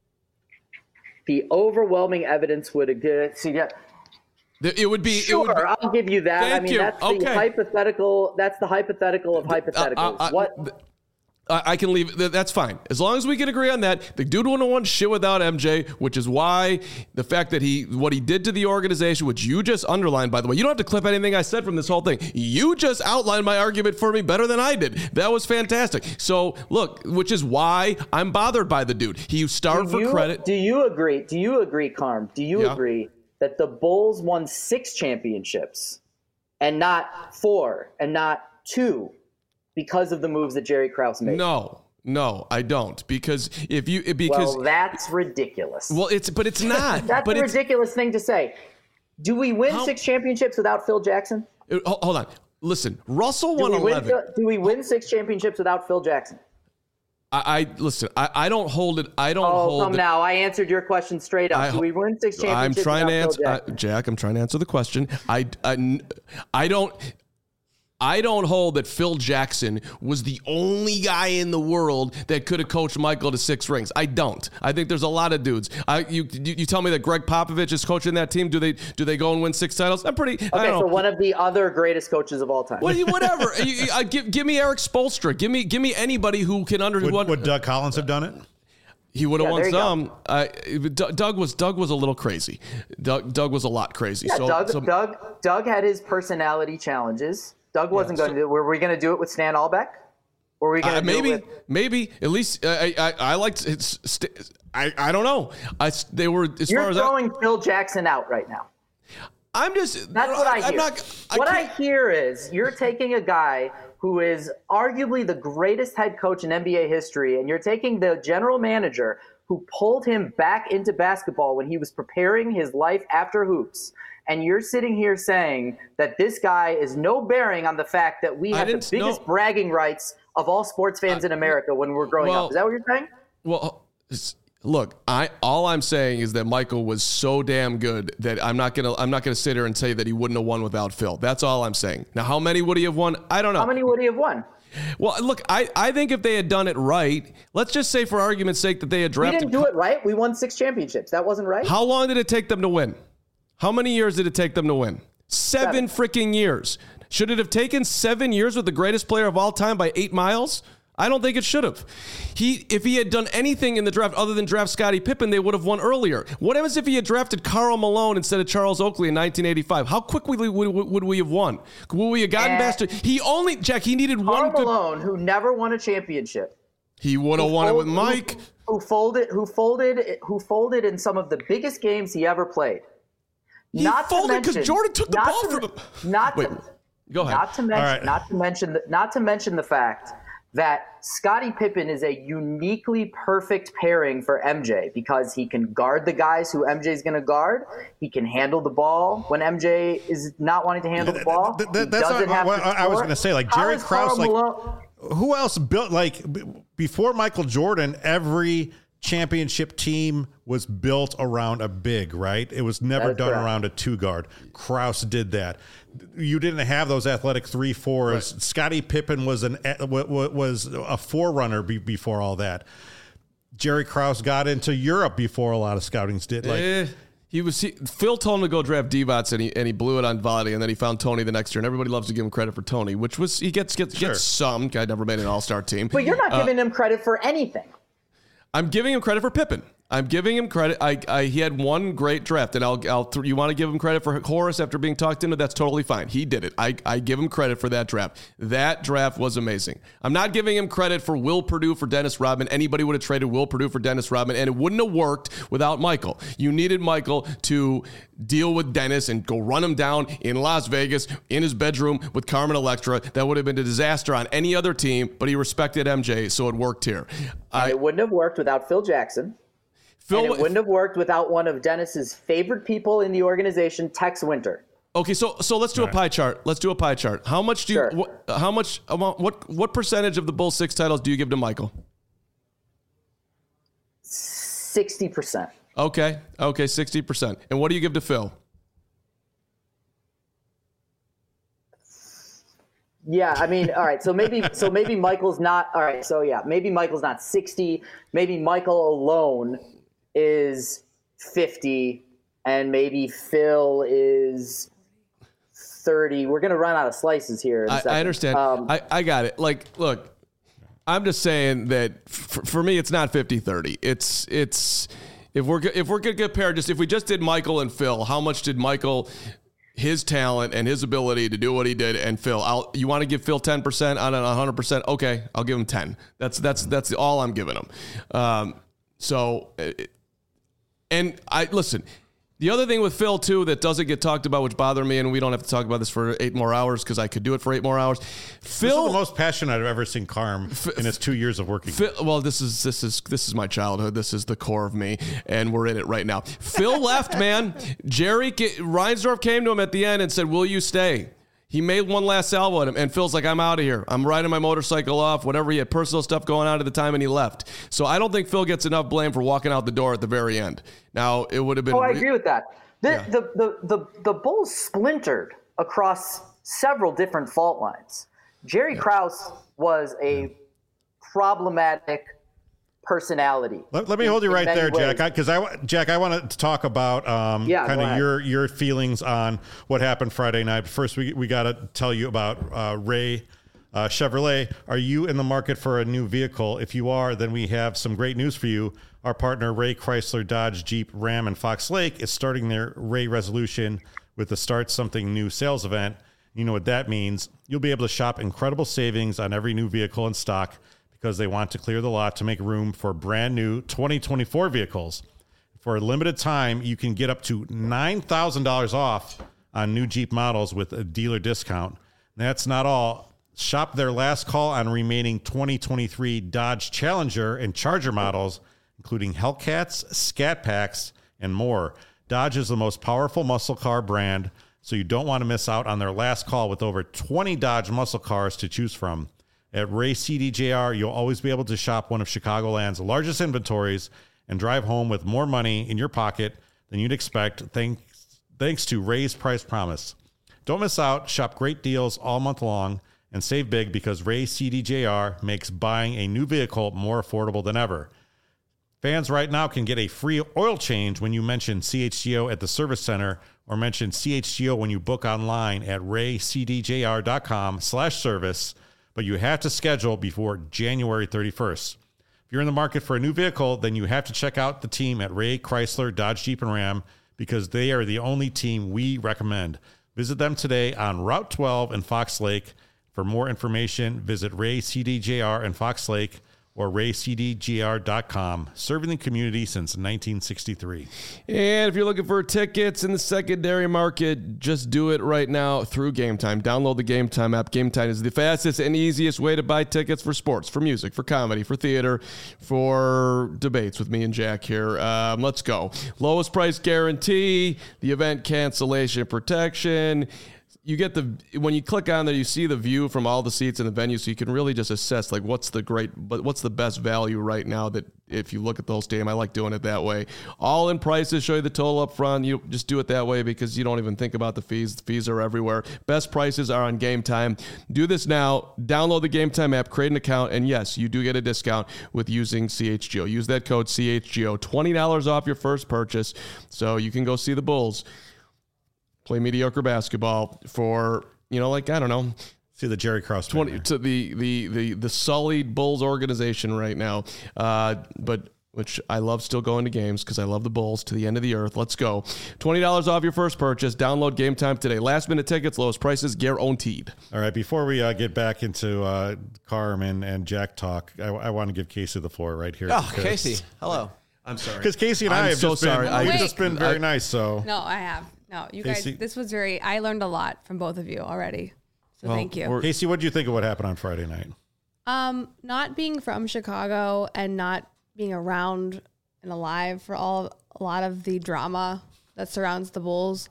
Speaker 5: The overwhelming evidence would agree. See, yeah,
Speaker 3: It would be.
Speaker 5: sure,
Speaker 3: It would be,
Speaker 5: I'll give you that. I
Speaker 3: Thank
Speaker 5: mean,
Speaker 3: you.
Speaker 5: that's the
Speaker 3: Okay.
Speaker 5: hypothetical. That's the hypothetical of hypotheticals.
Speaker 3: Uh, uh,
Speaker 5: what?
Speaker 3: I, I can leave. That's fine. As long as we can agree on that. The dude wouldn't have won shit without M J, which is why the fact that he, what he did to the organization, which you just underlined, by the way, you don't have to clip anything I said from this whole thing. You just outlined my argument for me better than I did. That was fantastic. So look, which is why I'm bothered by the dude. He starved
Speaker 5: Do
Speaker 3: for
Speaker 5: you,
Speaker 3: credit.
Speaker 5: Do you agree? Do you agree, Carm? Do you
Speaker 3: Yeah.
Speaker 5: agree that the Bulls won six championships and not four and not two because of the moves that Jerry Krause made?
Speaker 3: No, no, I don't. Because if you, because,
Speaker 5: Well, that's ridiculous.
Speaker 3: well, it's, but it's not.
Speaker 5: that's
Speaker 3: but
Speaker 5: a
Speaker 3: it's,
Speaker 5: ridiculous thing to say. Do we win
Speaker 3: How-
Speaker 5: six championships without Phil Jackson?
Speaker 3: uh, hold on. Listen, Russell
Speaker 5: Do
Speaker 3: won
Speaker 5: we, win,
Speaker 3: eleven.
Speaker 5: do we win six championships without Phil Jackson?
Speaker 3: I, I listen. I, I don't hold it. I don't
Speaker 5: Oh,
Speaker 3: hold
Speaker 5: come
Speaker 3: it.
Speaker 5: now. I answered your question straight up.
Speaker 3: I
Speaker 5: Do we win six
Speaker 3: I'm
Speaker 5: championships
Speaker 3: trying to
Speaker 5: without
Speaker 3: answer,
Speaker 5: Phil
Speaker 3: uh,
Speaker 5: Jackson?
Speaker 3: Jack. I'm trying to answer the question. I, I, I don't. I don't hold that Phil Jackson was the only guy in the world that could have coached Michael to six rings. I don't. I think there's a lot of dudes. I, you, you, you tell me that Greg Popovich is coaching that team. Do they, do they go and win six titles? I'm pretty. I
Speaker 5: Okay,
Speaker 3: don't
Speaker 5: so
Speaker 3: know.
Speaker 5: one of the other greatest coaches of all time.
Speaker 3: What, whatever. you, you, uh, give, give me Eric Spoelstra. Give me, give me anybody who can under.
Speaker 1: Would,
Speaker 3: what,
Speaker 1: would Doug Collins have done it?
Speaker 3: He would have
Speaker 5: Yeah,
Speaker 3: won
Speaker 5: there you go.
Speaker 3: some. Uh, Doug Doug was Doug was a little crazy. Doug Doug was a lot crazy.
Speaker 5: Yeah,
Speaker 3: so,
Speaker 5: Doug,
Speaker 3: so
Speaker 5: Doug, Doug had his personality challenges. Doug wasn't
Speaker 3: so-
Speaker 5: going to do it. Were we going to do it with Stan Albeck? Were we going to
Speaker 3: uh,
Speaker 5: do
Speaker 3: maybe
Speaker 5: it with?
Speaker 3: maybe at least uh, I I, I liked it's. St- I I don't know. I they were as
Speaker 5: You're
Speaker 3: far as
Speaker 5: throwing Phil Jackson out right now.
Speaker 3: I, I'm just.
Speaker 5: That's what I hear.
Speaker 3: I'm not. I
Speaker 5: what I
Speaker 3: can't-
Speaker 5: hear is you're taking a guy who is arguably the greatest head coach in N B A history, and you're taking the general manager who pulled him back into basketball when he was preparing his life after hoops. And you're sitting here saying that this guy is no bearing on the fact that we
Speaker 3: I
Speaker 5: have the
Speaker 3: didn't-
Speaker 5: biggest
Speaker 3: no.
Speaker 5: bragging rights of all sports fans in America when we're growing
Speaker 3: well-
Speaker 5: up. Is that what you're saying?
Speaker 3: Well, it's- look, I all I'm saying is that Michael was so damn good that I'm not gonna I'm not gonna sit here and say that he wouldn't have won without Phil. That's all I'm saying. Now, how many would he have won? I don't know.
Speaker 5: How many would he have won?
Speaker 3: Well, look, I, I think if they had done it right, let's just say for argument's sake that they had
Speaker 5: We
Speaker 3: drafted.
Speaker 5: didn't do it right. We won six championships. That wasn't right.
Speaker 3: How long did it take them to win? How many years did it take them to win? Seven,
Speaker 5: Seven.
Speaker 3: freaking years. Should it have taken seven years with the greatest player of all time by eight miles? I don't think it should have. He, if he had done anything in the draft other than draft Scottie Pippen, they would have won earlier. What happens if he had drafted Karl Malone instead of Charles Oakley in nineteen eighty-five? How quickly would, would, would we have won? Would we have gotten
Speaker 5: Eh.
Speaker 3: past it? He only, Jack, he needed
Speaker 5: Karl
Speaker 3: one good.
Speaker 5: Malone, who never won a championship.
Speaker 3: He would have
Speaker 5: who
Speaker 3: won it with
Speaker 5: fold-
Speaker 3: Mike.
Speaker 5: Who, who folded? Who folded? Who folded in some of the biggest games he ever played.
Speaker 3: He
Speaker 5: Not to
Speaker 3: folded 'cause
Speaker 5: mention-
Speaker 3: Jordan took the
Speaker 5: not
Speaker 3: ball
Speaker 5: to
Speaker 3: from
Speaker 5: men-
Speaker 3: him.
Speaker 5: Not
Speaker 3: Wait,
Speaker 5: to,
Speaker 3: go ahead.
Speaker 5: Not to mention.
Speaker 1: right.
Speaker 5: Not to mention. The, not to mention the fact that Scottie Pippen is a uniquely perfect pairing for M J because he can guard the guys who M J is going to guard. He can handle the ball when M J is not wanting to handle the ball.
Speaker 1: Th- th-
Speaker 5: He
Speaker 1: that's
Speaker 5: doesn't
Speaker 1: not
Speaker 5: have
Speaker 1: what
Speaker 5: to
Speaker 1: I was
Speaker 5: score.
Speaker 1: going to say. Like
Speaker 5: How
Speaker 1: Jerry
Speaker 5: is Karl
Speaker 1: Krause, like
Speaker 5: Malone-
Speaker 1: who else built like b- before Michael Jordan? Every championship team was built around a big, right? It was never
Speaker 5: That is
Speaker 1: done
Speaker 5: correct.
Speaker 1: around a two guard. Krause did that. You didn't have those athletic three fours. Right. Scottie Pippen was an was a forerunner be, before all that. Jerry Krause got into Europe before a lot of scoutings did. Like
Speaker 3: Eh, he was he, Phil told him to go draft Divac and he and he blew it on volley, and then he found Tony the next year, and everybody loves to give him credit for Tony, which was he gets gets
Speaker 1: Sure.
Speaker 3: gets some guy never made an all star team.
Speaker 5: But you're not
Speaker 3: Uh,
Speaker 5: giving him credit for anything.
Speaker 3: I'm giving him credit for Pippen. I'm giving him credit. I, I he had one great draft, and I'll I'll th- you want to give him credit for Horace after being talked into? That's totally fine. He did it. I I give him credit for that draft. That draft was amazing. I'm not giving him credit for Will Perdue for Dennis Rodman. Anybody would have traded Will Perdue for Dennis Rodman, and it wouldn't have worked without Michael. You needed Michael to deal with Dennis and go run him down in Las Vegas in his bedroom with Carmen Electra. That would have been a disaster on any other team, but he respected M J, so it worked here.
Speaker 5: And
Speaker 3: I,
Speaker 5: it wouldn't have worked without Phil Jackson.
Speaker 3: Phil,
Speaker 5: And it wouldn't have worked without one of Dennis's favorite people in the organization, Tex Winter.
Speaker 3: Okay, so so let's do a pie chart. Let's do a pie chart. How much do you?
Speaker 5: Sure.
Speaker 3: What, how much? What what what percentage of the Bulls six titles do you give to Michael?
Speaker 5: sixty percent.
Speaker 3: Okay, okay, sixty percent. And what do you give to Phil?
Speaker 5: Yeah, I mean, all right. So maybe, so maybe Michael's not. All right. So yeah, maybe Michael's not sixty. Maybe Michael alone is fifty, and maybe Phil is thirty. We're gonna run out of slices here. In a
Speaker 3: I,
Speaker 5: second.
Speaker 3: I understand.
Speaker 5: Um,
Speaker 3: I, I got it. Like, look, I'm just saying that f- for me, it's not fifty thirty. It's it's if we're go- if we're gonna compare, just if we just did Michael and Phil, how much did Michael? His talent and his ability to do what he did, and Phil, I'll, you want to give Phil ten percent on an one hundred percent? Okay, I'll give him ten. That's that's that's all I'm giving him. Um, so, and I listen. The other thing with Phil too that doesn't get talked about, which bothered me, and we don't have to talk about this for eight more hours because I could do it for eight more hours. Phil,
Speaker 1: this is the most passionate I've ever seen Carm in his two years of working.
Speaker 3: Phil, well, this is this is this is my childhood. This is the core of me, and we're in it right now. Phil left, man. Jerry Reinsdorf came to him at the end and said, "Will you stay?" He made one last salvo at him, and Phil's like, "I'm out of here. I'm riding my motorcycle off, whatever." He had personal stuff going on at the time, and he left. So I don't think Phil gets enough blame for walking out the door at the very end. Now, it would have been...
Speaker 5: Oh, I agree with that. The,
Speaker 3: Yeah.
Speaker 5: the, the, the, the Bulls splintered across several different fault lines. Jerry Krause was a problematic personality.
Speaker 1: Let, let me
Speaker 5: in-
Speaker 1: hold you
Speaker 5: in
Speaker 1: right
Speaker 5: many
Speaker 1: there,
Speaker 5: ways.
Speaker 1: Jack, because I, I Jack, I want to talk about um,
Speaker 5: Yeah,
Speaker 1: kind
Speaker 5: go
Speaker 1: of
Speaker 5: ahead.
Speaker 1: your your feelings on what happened Friday night. First, we we got to tell you about uh, Ray uh, Chevrolet. Are you in the market for a new vehicle? If you are, then we have some great news for you. Our partner Ray Chrysler, Dodge, Jeep, Ram, and Fox Lake is starting their Ray Resolution with the Start Something New sales event. You know what that means. You'll be able to shop incredible savings on every new vehicle in stock because they want to clear the lot to make room for brand new twenty twenty-four vehicles. For a limited time, you can get up to nine thousand dollars off on new Jeep models with a dealer discount. That's not all. Shop their last call on remaining twenty twenty-three Dodge Challenger and Charger models, including Hellcats, Scat Packs, and more. Dodge is the most powerful muscle car brand, so you don't want to miss out on their last call with over twenty Dodge muscle cars to choose from. At Ray C D J R, you'll always be able to shop one of Chicagoland's largest inventories and drive home with more money in your pocket than you'd expect thanks, thanks to Ray's Price Promise. Don't miss out. Shop great deals all month long and save big because Ray C D J R makes buying a new vehicle more affordable than ever. Fans right now can get a free oil change when you mention C H G O at the service center or mention C H G O when you book online at raycdjr.com slash service, but you have to schedule before January thirty-first. If you're in the market for a new vehicle, then you have to check out the team at Ray Chrysler, Dodge, Jeep, and Ram because they are the only team we recommend. Visit them today on Route twelve in Fox Lake. For more information, visit Ray C D J R in Fox Lake or ray c d j r dot com, serving the community since nineteen sixty-three.
Speaker 3: And if you're looking for tickets in the secondary market, just do it right now through Game Time. Download the Game Time app. Game Time is the fastest and easiest way to buy tickets for sports, for music, for comedy, for theater, for debates with me and Jack here. Um, let's go. Lowest price guarantee, the event cancellation protection. You get the, when you click on there, you see the view from all the seats in the venue, so you can really just assess like what's the great, but what's the best value right now. That if you look at the whole stadium, I like doing it that way. All in prices, show you the total up front. You just do it that way because you don't even think about the fees. The fees are everywhere. Best prices are on Game Time. Do this now. Download the Game Time app, create an account, and yes, you do get a discount with using C H G O. Use that code C H G O, twenty dollars off your first purchase, so you can go see the Bulls play mediocre basketball for, you know, like, I don't know.
Speaker 1: See the Jerry Krause
Speaker 3: twenty to the, the, the, the sullied Bulls organization right now. Uh, but which I love still going to games because I love the Bulls to the end of the earth. Let's go. twenty dollars off your first purchase. Download Game Time today. Last minute tickets, lowest prices, guaranteed.
Speaker 1: All right. Before we uh, get back into uh, Carm and Jack talk, I, I want to give Casey the floor right here.
Speaker 4: Oh, Casey. Hello.
Speaker 3: I'm sorry.
Speaker 1: Because Casey and
Speaker 3: I'm
Speaker 1: I have
Speaker 3: so
Speaker 1: just
Speaker 3: sorry.
Speaker 1: been,
Speaker 3: I
Speaker 1: we've
Speaker 2: just-
Speaker 1: just been very
Speaker 3: I-
Speaker 1: nice. So
Speaker 2: No, I have. No, you
Speaker 1: Casey-
Speaker 2: guys, this was very, I learned a lot from both of you already. So
Speaker 3: Well,
Speaker 2: thank you.
Speaker 3: we're-
Speaker 1: Casey, what do you think of what happened on Friday night?
Speaker 2: Um, not being from Chicago and not being around and alive for all a lot of the drama that surrounds the Bulls,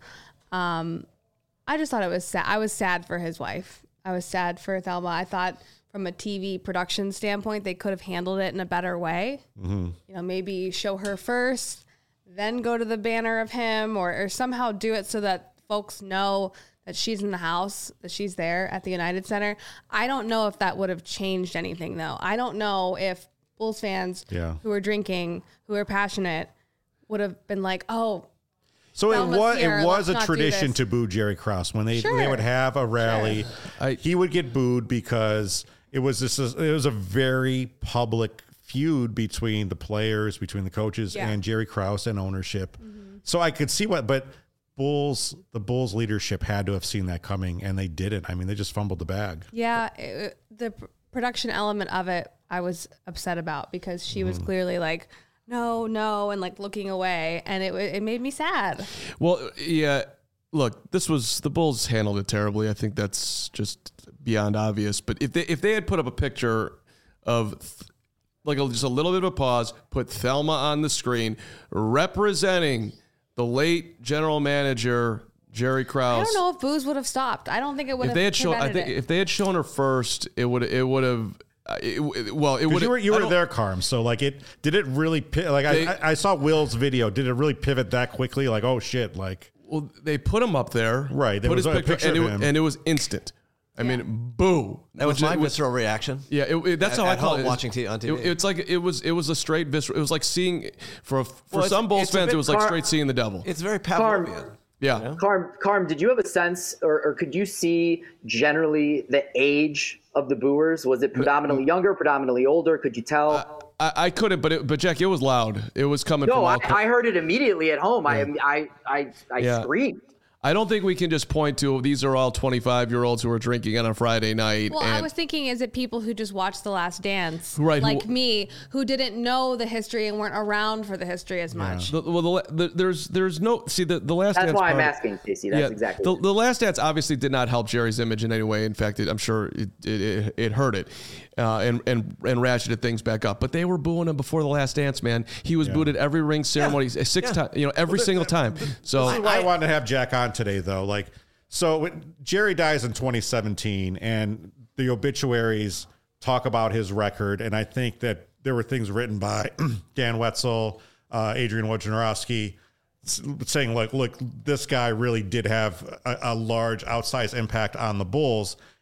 Speaker 2: um, I just thought it was sad. I was sad for his wife. I was sad for Thelma. I thought from a T V production standpoint, they could have handled it in a better way. Mm-hmm. You know, maybe show her first, then go to the banner of him, or, or somehow do it so that folks know that she's in the house, that she's there at the United Center. I don't know if that would have changed anything, though. I don't know if Bulls fans
Speaker 1: Yeah.
Speaker 2: who are drinking, who are passionate, would have been like, oh,
Speaker 1: So it
Speaker 2: Thelma's
Speaker 1: was
Speaker 2: here,
Speaker 1: it was
Speaker 2: let's
Speaker 1: a
Speaker 2: not do
Speaker 1: tradition
Speaker 2: this.
Speaker 1: to boo Jerry Krause when they
Speaker 2: Sure.
Speaker 1: they would have a rally.
Speaker 3: I-
Speaker 1: he would get booed because it was this it was a very public feud between the players, between the coaches,
Speaker 2: Yeah.
Speaker 1: and Jerry Krause and ownership. Mm-hmm. So I could see what, but Bulls the Bulls leadership had to have seen that coming, and they didn't. I mean, they just fumbled the bag.
Speaker 2: yeah, it, the pr- production element of it, I was upset about because she was clearly like, no, no, and like looking away, and it it made me sad.
Speaker 3: Well, yeah. Look, this was the Bulls handled it terribly. I think that's just beyond obvious. But if they if they had put up a picture of th- like a, just a little bit of a pause, put Thelma on the screen representing the late general manager Jerry Krause.
Speaker 2: I don't know if booze would have stopped. I don't think it would
Speaker 3: If
Speaker 2: have
Speaker 3: they had shown, I
Speaker 2: prevented
Speaker 3: think
Speaker 2: it.
Speaker 3: if they had shown her first, it would it would have. Uh, it, it- well, it would.
Speaker 1: Because you were you were there, Carm. So like it did it really pi- like
Speaker 3: They-
Speaker 1: I, I I saw Will's video. Did it really pivot that quickly? Like oh shit! Like
Speaker 3: Well, they put him up there,
Speaker 1: Right, there
Speaker 3: Put
Speaker 1: was
Speaker 3: his
Speaker 1: a picture
Speaker 3: and,
Speaker 1: of
Speaker 3: it,
Speaker 1: him.
Speaker 3: and it was instant. I mean, boo.
Speaker 4: That was
Speaker 3: Which-
Speaker 4: my
Speaker 3: which-
Speaker 4: visceral reaction.
Speaker 3: Yeah, it, it- that's
Speaker 4: At-
Speaker 3: how I
Speaker 4: at
Speaker 3: call
Speaker 4: home
Speaker 3: it.
Speaker 4: watching t- on T V.
Speaker 3: It- it's like it was. It was a straight visceral. It was like seeing for for
Speaker 4: Well, it's-
Speaker 3: some Bulls
Speaker 4: it's a
Speaker 3: fans.
Speaker 4: bit
Speaker 3: It was like
Speaker 5: car-
Speaker 3: straight seeing the devil.
Speaker 4: It's very
Speaker 5: Carm.
Speaker 4: Pavlovian.
Speaker 3: Yeah,
Speaker 5: Carm, Carm, did you have a sense, or, or could you see generally the age of the booers? Was it predominantly younger, predominantly older? Could you tell?
Speaker 3: I, I couldn't, but it, but Jack, it was loud. It was coming from
Speaker 5: no,
Speaker 3: all.
Speaker 5: I, I heard it immediately at home. I, I, I, I
Speaker 3: Yeah.
Speaker 5: screamed.
Speaker 3: I don't think we can just point to these are all twenty-five year olds who are drinking on a Friday night.
Speaker 2: Well,
Speaker 3: and
Speaker 2: I was thinking, is it people who just watched The Last Dance,
Speaker 3: Right, who-
Speaker 2: like me, who didn't know the history and weren't around for the history as much?
Speaker 3: the, well, the, the, there's there's no see the the last.
Speaker 5: That's
Speaker 3: Dance
Speaker 5: why I'm
Speaker 3: part-
Speaker 5: asking, Casey. That's exactly.
Speaker 3: The, the Last Dance obviously did not help Jerry's image in any way. In fact, it, I'm sure it it, it, it hurt it, uh, and and and ratcheted things back up. But they were booing him before the Last Dance, man. He was booed at every ring ceremony, six
Speaker 4: Yeah.
Speaker 3: times, you know, every single time. So
Speaker 1: This is why I, wanted to have Jack on today, though. Like, so when Jerry dies in twenty seventeen, and the obituaries talk about his record, and I think that there were things written by Dan Wetzel, uh, Adrian Wojnarowski, s- saying, like, look, this guy really did have a, a large outsized impact on the Bulls.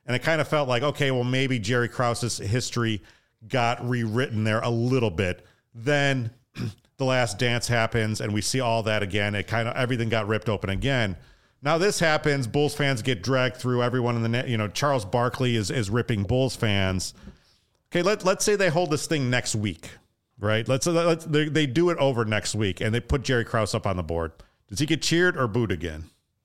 Speaker 1: And it kind of felt like, okay, well, maybe Jerry Krause's history got rewritten there a little bit. Then The Last Dance happens and we see all that again. It kind of, everything got ripped open again. Now this happens. Bulls fans get dragged through. Everyone in the net, you know, Charles Barkley is, is ripping Bulls fans. Okay, let, let's say they hold this thing next week, right? Let's, let's they, they do it over next week and they put Jerry Krause up on the board. Does he get cheered or booed again?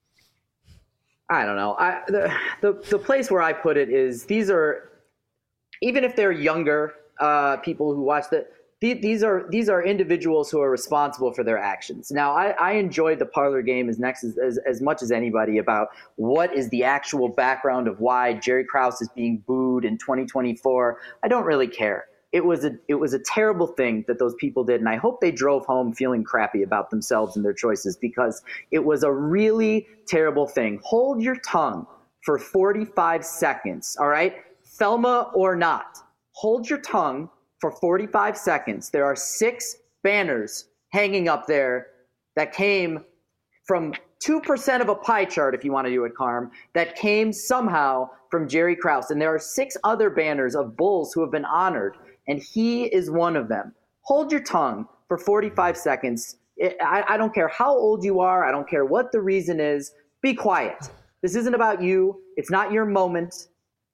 Speaker 5: I don't know. I, the, the the place where I put it is these are, even if they're younger uh, people who watch the, these are these are individuals who are responsible for their actions. Now, I, I enjoyed the parlor game as next as, as as much as anybody about what is the actual background of why Jerry Krause is being booed in twenty twenty-four. I don't really care. It was a it was a terrible thing that those people did, and I hope they drove home feeling crappy about themselves and their choices because it was a really terrible thing. Hold your tongue for forty-five seconds, all right? Thelma or not. Hold your tongue for forty-five seconds. There are six banners hanging up there that came from two percent of a pie chart, if you want to do it, Carm, that came somehow from Jerry Krause. And there are six other banners of Bulls who have been honored, and he is one of them. Hold your tongue for forty-five seconds. I, I don't care how old you are. I don't care what the reason is. Be quiet. This isn't about you. It's not your moment.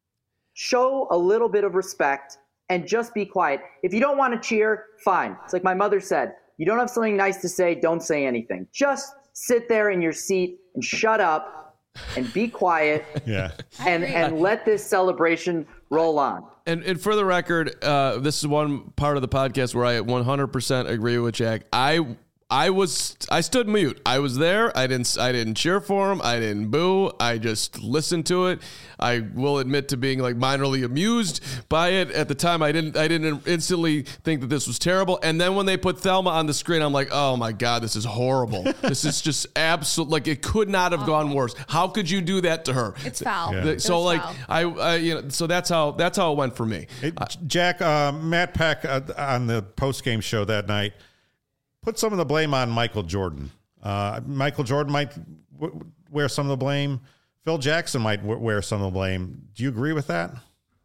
Speaker 5: Show a little bit of respect and just be quiet. If you don't want to cheer, fine. It's like my mother said, you don't have something nice to say, don't say anything. Just sit there in your seat and shut up and be quiet.
Speaker 1: Yeah.
Speaker 5: and and let this celebration roll on.
Speaker 3: And, and for the record, uh, this is one part of the podcast where I one hundred percent agree with Jack. I I was I stood mute. I was there. I didn't I didn't cheer for him. I didn't boo. I just listened to it. I will admit to being like minorly amused by it. At the time, I didn't I didn't instantly think that this was terrible. And then when they put Thelma on the screen, I'm like, oh my God, this is horrible. This is just absolute. Like it could not have gone worse. How could you do that to her?
Speaker 2: It's foul.
Speaker 1: Yeah.
Speaker 3: So
Speaker 2: It's
Speaker 3: like
Speaker 2: foul.
Speaker 3: I, I you know so that's how that's how it went for me.
Speaker 1: Hey, Jack, uh, Matt Peck uh, on the post-game show that night put some of the blame on Michael Jordan. Uh, Michael Jordan might w- wear some of the blame. Phil Jackson might w- wear some of the blame. Do you agree with that?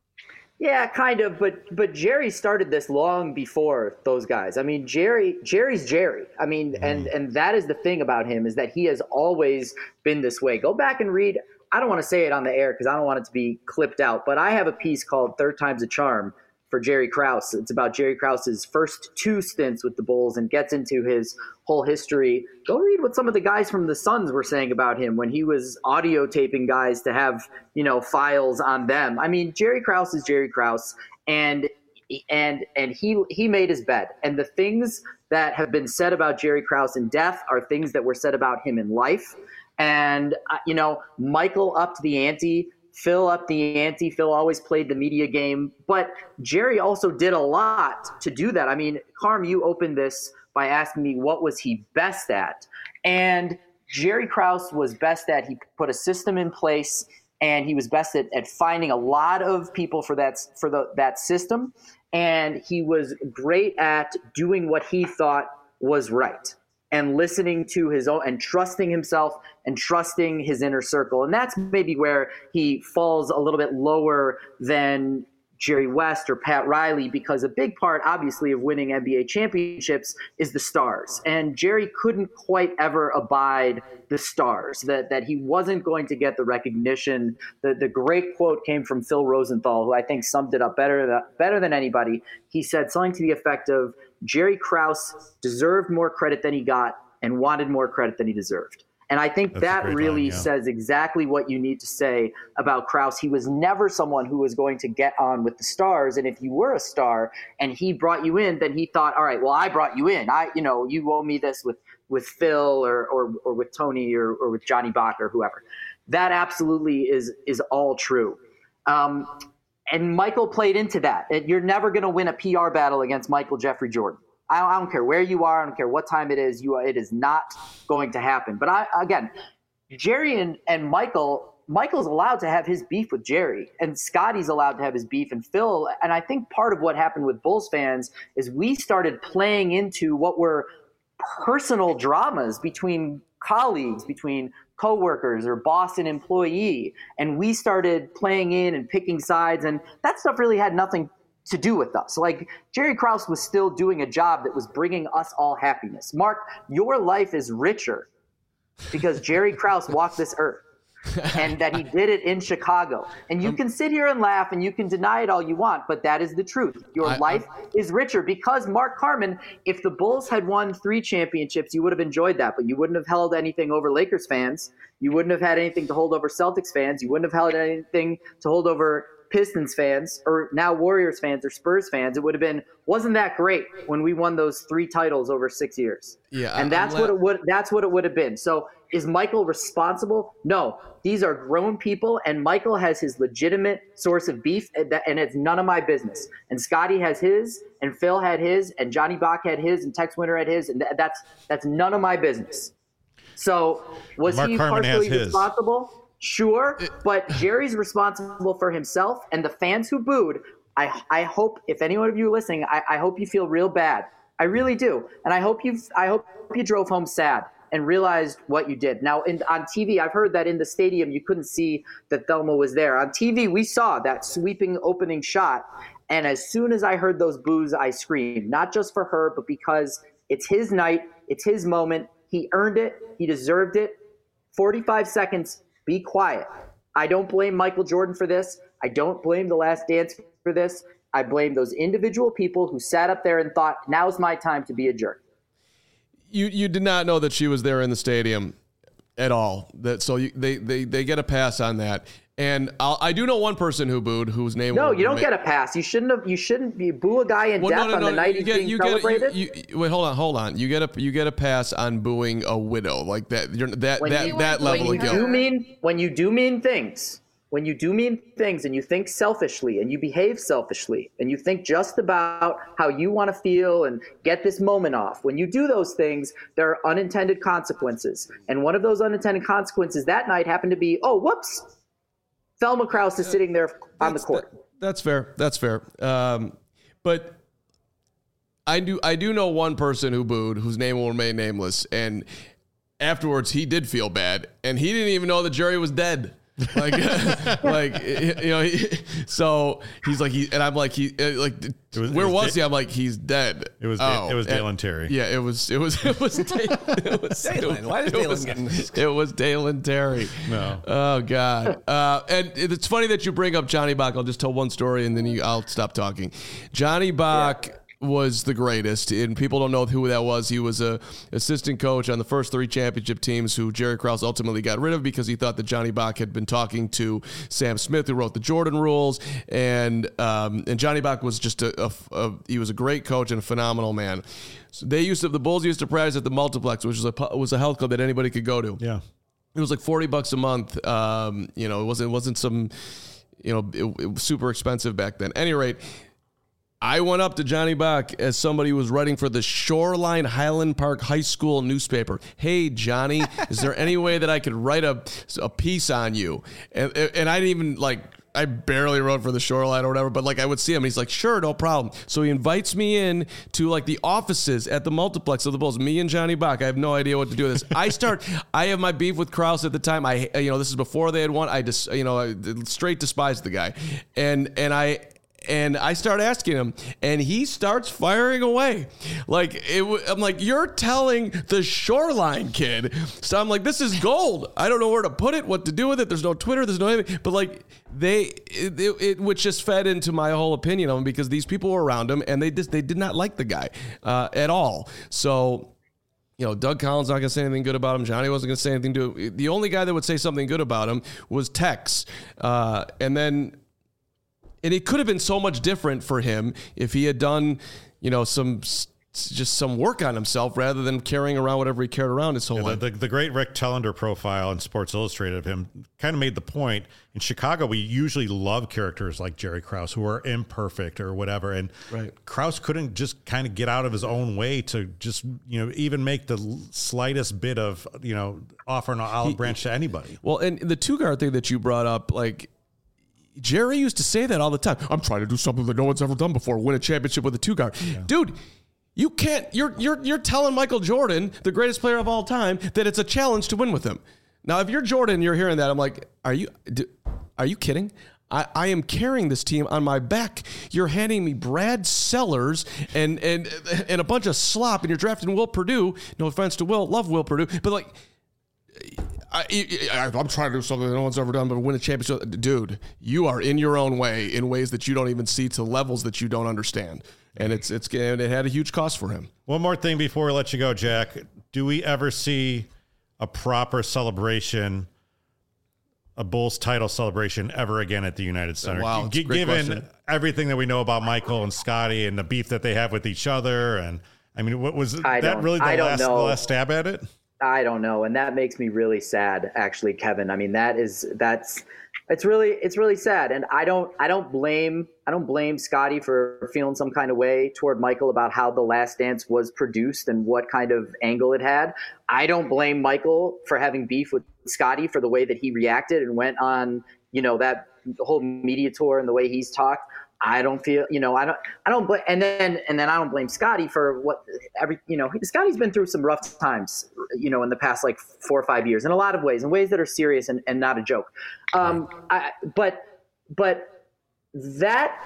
Speaker 5: Yeah, kind of, but but Jerry started this long before those guys. I mean, Jerry Jerry's Jerry. I mean, mm. and and that is the thing about him is that he has always been this way. Go back and read. I don't want to say it on the air because I don't want it to be clipped out, but I have a piece called Third Time's a Charm for Jerry Krause. It's about Jerry Krause's first two stints with the Bulls and gets into his whole history. Go read what some of the guys from the Suns were saying about him when he was audio taping guys to have, you know, files on them. I mean, Jerry Krause is Jerry Krause, and and and he he made his bed. And the things that have been said about Jerry Krause in death are things that were said about him in life. And, uh, you know, Michael upped the ante. Phil up the ante. Phil always played the media game, but Jerry also did a lot to do that. I mean, Carm, you opened this by asking me what was he best at, and Jerry Krause was best at. He put a system in place, and he was best at, at finding a lot of people for that for the that system, and he was great at doing what he thought was right. And listening to his own and trusting himself and trusting his inner circle. And that's maybe where he falls a little bit lower than Jerry West or Pat Riley, because a big part, obviously, of winning N B A championships is the stars. And Jerry couldn't quite ever abide the stars, that, that he wasn't going to get the recognition. The, the great quote came from Phil Rosenthal, who I think summed it up better, than, better than anybody. He said something to the effect of, Jerry Krause deserved more credit than he got and wanted more credit than he deserved. And I think
Speaker 1: That's
Speaker 5: that really
Speaker 1: line, yeah.
Speaker 5: says exactly what you need to say about Krause. He was never someone who was going to get on with the stars. And if you were a star and he brought you in, then he thought, all right, well, I brought you in. I, you know, you owe me this with, with Phil or, or, or with Tony or, or with Johnny Bach or whoever. That absolutely is, is all true. Um, And Michael played into that. You're never going to win a P R battle against Michael Jeffrey Jordan. I don't, I don't care where you are. I don't care what time it is. You, it is not going to happen. But I, again, Jerry and, and Michael, Michael's allowed to have his beef with Jerry, and Scotty's allowed to have his beef, and Phil. And I think part of what happened with Bulls fans is we started playing into what were personal dramas between colleagues, between coworkers or boss and employee, and we started playing in and picking sides, and that stuff really had nothing to do with us. Like, Jerry Krause was still doing a job that was bringing us all happiness. Mark, your life is richer because Jerry Krause walked this earth. And that he did it in Chicago. And you can sit here and laugh and you can deny it all you want, but that is the truth. Your
Speaker 3: I,
Speaker 5: life I, is richer because Mark Carman, if the Bulls had won three championships, you would have enjoyed that, but you wouldn't have held anything over Lakers fans. You wouldn't have had anything to hold over Celtics fans. You wouldn't have held anything to hold over Pistons fans or now Warriors fans or Spurs fans. It would have been, wasn't that great when we won those three titles over six years?
Speaker 3: Yeah,
Speaker 5: and that's
Speaker 3: I'm
Speaker 5: what it would. That's what it would have been. So, is Michael responsible? No. These are grown people, and Michael has his legitimate source of beef, and it's none of my business. And Scotty has his, and Phil had his, and Johnny Bach had his, and Tex Winter had his, and that's that's none of my business. So, was
Speaker 1: Mark
Speaker 5: he
Speaker 1: Carman
Speaker 5: partially
Speaker 1: has his.
Speaker 5: responsible? Sure, but Jerry's responsible for himself, and the fans who booed, I I hope, if any one of you are listening, I, I hope you feel real bad. I really do. And I hope you I hope you drove home sad and realized what you did. Now, in, on T V, I've heard that in the stadium you couldn't see that Thelma was there. On T V, we saw that sweeping opening shot, and as soon as I heard those boos, I screamed, not just for her, but because it's his night, it's his moment. He earned it. He deserved it. forty-five seconds, be quiet. I don't blame Michael Jordan for this. I don't blame The Last Dance for this. I blame those individual people who sat up there and thought, now's my time to be a jerk.
Speaker 3: You you did not know that she was there in the stadium at all. That so you, they they they get a pass on that. And I'll, I do know one person who booed, whose name.
Speaker 5: No, you don't ma- get a pass. You shouldn't have. You shouldn't be boo a guy in
Speaker 3: well,
Speaker 5: death
Speaker 3: no, no,
Speaker 5: on
Speaker 3: no,
Speaker 5: the night
Speaker 3: you
Speaker 5: he's
Speaker 3: get,
Speaker 5: being
Speaker 3: you
Speaker 5: celebrated.
Speaker 3: Get, you, you, wait, hold on, hold on. You get a you get a pass on booing a widow like that. You're, that
Speaker 5: when
Speaker 3: that
Speaker 5: you,
Speaker 3: that level
Speaker 5: when
Speaker 3: of
Speaker 5: you
Speaker 3: guilt.
Speaker 5: do mean when you do mean things. When you do mean things and you think selfishly and you behave selfishly and you think just about how you want to feel and get this moment off, when you do those things, there are unintended consequences. And one of those unintended consequences that night happened to be, oh, whoops, Thelma Krause is sitting there on the court.
Speaker 3: That, that's fair. That's fair. Um, but I do I do know one person who booed, whose name will remain nameless, and afterwards he did feel bad, and he didn't even know that Jerry was dead. like, like you know, he, so he's like, he and I'm like, he like, was, where was, was he? I'm like, he's dead.
Speaker 1: It was,
Speaker 3: oh,
Speaker 1: it was Dalen
Speaker 3: and,
Speaker 1: Terry.
Speaker 3: Yeah, it was, it was, it was, Dalen. It was
Speaker 4: Dalen. Why is Dalen getting this?
Speaker 3: It was Dalen Terry.
Speaker 1: No.
Speaker 3: Oh God. Uh, and it's funny that you bring up Johnny Bach. I'll just tell one story and then you, I'll stop talking. Johnny Bach. Yeah. was the greatest, and people don't know who that was. He was a assistant coach on the first three championship teams who Jerry Krause ultimately got rid of because he thought that Johnny Bach had been talking to Sam Smith, who wrote the Jordan rules, and um, and Johnny Bach was just a, a, a he was a great coach and a phenomenal man. So they used to the Bulls used to practice at the Multiplex, which was a was a health club that anybody could go to.
Speaker 1: Yeah,
Speaker 3: it was like forty bucks a month. Um, you know, it wasn't it wasn't some you know it, it was super expensive back then. At any rate. I went up to Johnny Bach as somebody who was writing for the Shoreline Highland Park High School newspaper. Hey, Johnny, is there any way that I could write a, a piece on you? And and I didn't even, like, I barely wrote for the Shoreline or whatever, but, like, I would see him. He's like, sure, no problem. So he invites me in to, like, the offices at the Multiplex of the Bulls, me and Johnny Bach. I have no idea what to do with this. I start, I have my beef with Krause at the time. I, you know, this is before they had won. I just, you know, I straight despised the guy. And, and I, And I start asking him, and he starts firing away. Like, it, I'm like, you're telling the Shoreline kid. So I'm like, this is gold. I don't know where to put it, what to do with it. There's no Twitter. There's no anything. But, like, they, it, it, it which just fed into my whole opinion of him because these people were around him, and they just, they did not like the guy uh, at all. So, you know, Doug Collins not going to say anything good about him. Johnny wasn't going to say anything to him. The only guy that would say something good about him was Tex. Uh, and then... And it could have been so much different for him if he had done, you know, some just some work on himself rather than carrying around whatever he carried around his whole
Speaker 1: yeah,
Speaker 3: life.
Speaker 1: The, the, the great Rick Tellender profile in Sports Illustrated of him kind of made the point. In Chicago, we usually love characters like Jerry Krause who are imperfect or whatever. And
Speaker 3: right.
Speaker 1: Krause couldn't just kind of get out of his own way to just, you know, even make the slightest bit of, you know, offer an olive he, branch to anybody.
Speaker 3: Well, and the two-guard thing that you brought up, like, Jerry used to say that all the time. I'm trying to do something that no one's ever done before, win a championship with a two-guard. Yeah. Dude, you can't, you're, you're, you're telling Michael Jordan, the greatest player of all time, that it's a challenge to win with him. Now, if you're Jordan, you're hearing that. I'm like, are you, do, are you kidding? I, I am carrying this team on my back. You're handing me Brad Sellers and and and a bunch of slop, and you're drafting Will Perdue. No offense to Will, love Will Perdue, but like, I, I, I'm trying to do something that no one's ever done, but win a championship. Dude, you are in your own way in ways that you don't even see, to levels that you don't understand, and it's it's it had a huge cost for him.
Speaker 1: One more thing before we let you go, Jack. Do we ever see a proper celebration, a Bulls title celebration ever again at the United Center?
Speaker 3: Wow, that's
Speaker 1: G-
Speaker 3: a great
Speaker 1: given
Speaker 3: question.
Speaker 1: everything that we know about Michael and Scotty and the beef that they have with each other, and I mean, what was
Speaker 5: I
Speaker 1: that
Speaker 5: don't-
Speaker 1: really the
Speaker 5: I don't
Speaker 1: last, the
Speaker 5: know.
Speaker 1: last stab at it?
Speaker 5: I don't know, and that makes me really sad, actually, Kevin. I mean, that is that's it's really it's really sad, and I don't I don't blame I don't blame Scotty for feeling some kind of way toward Michael about how The Last Dance was produced and what kind of angle it had. I don't blame Michael for having beef with Scotty for the way that he reacted and went on, you know, that whole media tour and the way he's talked. I don't feel, you know, I don't, I don't blame, and then, and then I don't blame Scotty for what every, you know, Scotty's been through some rough times, you know, in the past like four or five years in a lot of ways, in ways that are serious and, and not a joke. Um, I, but, but that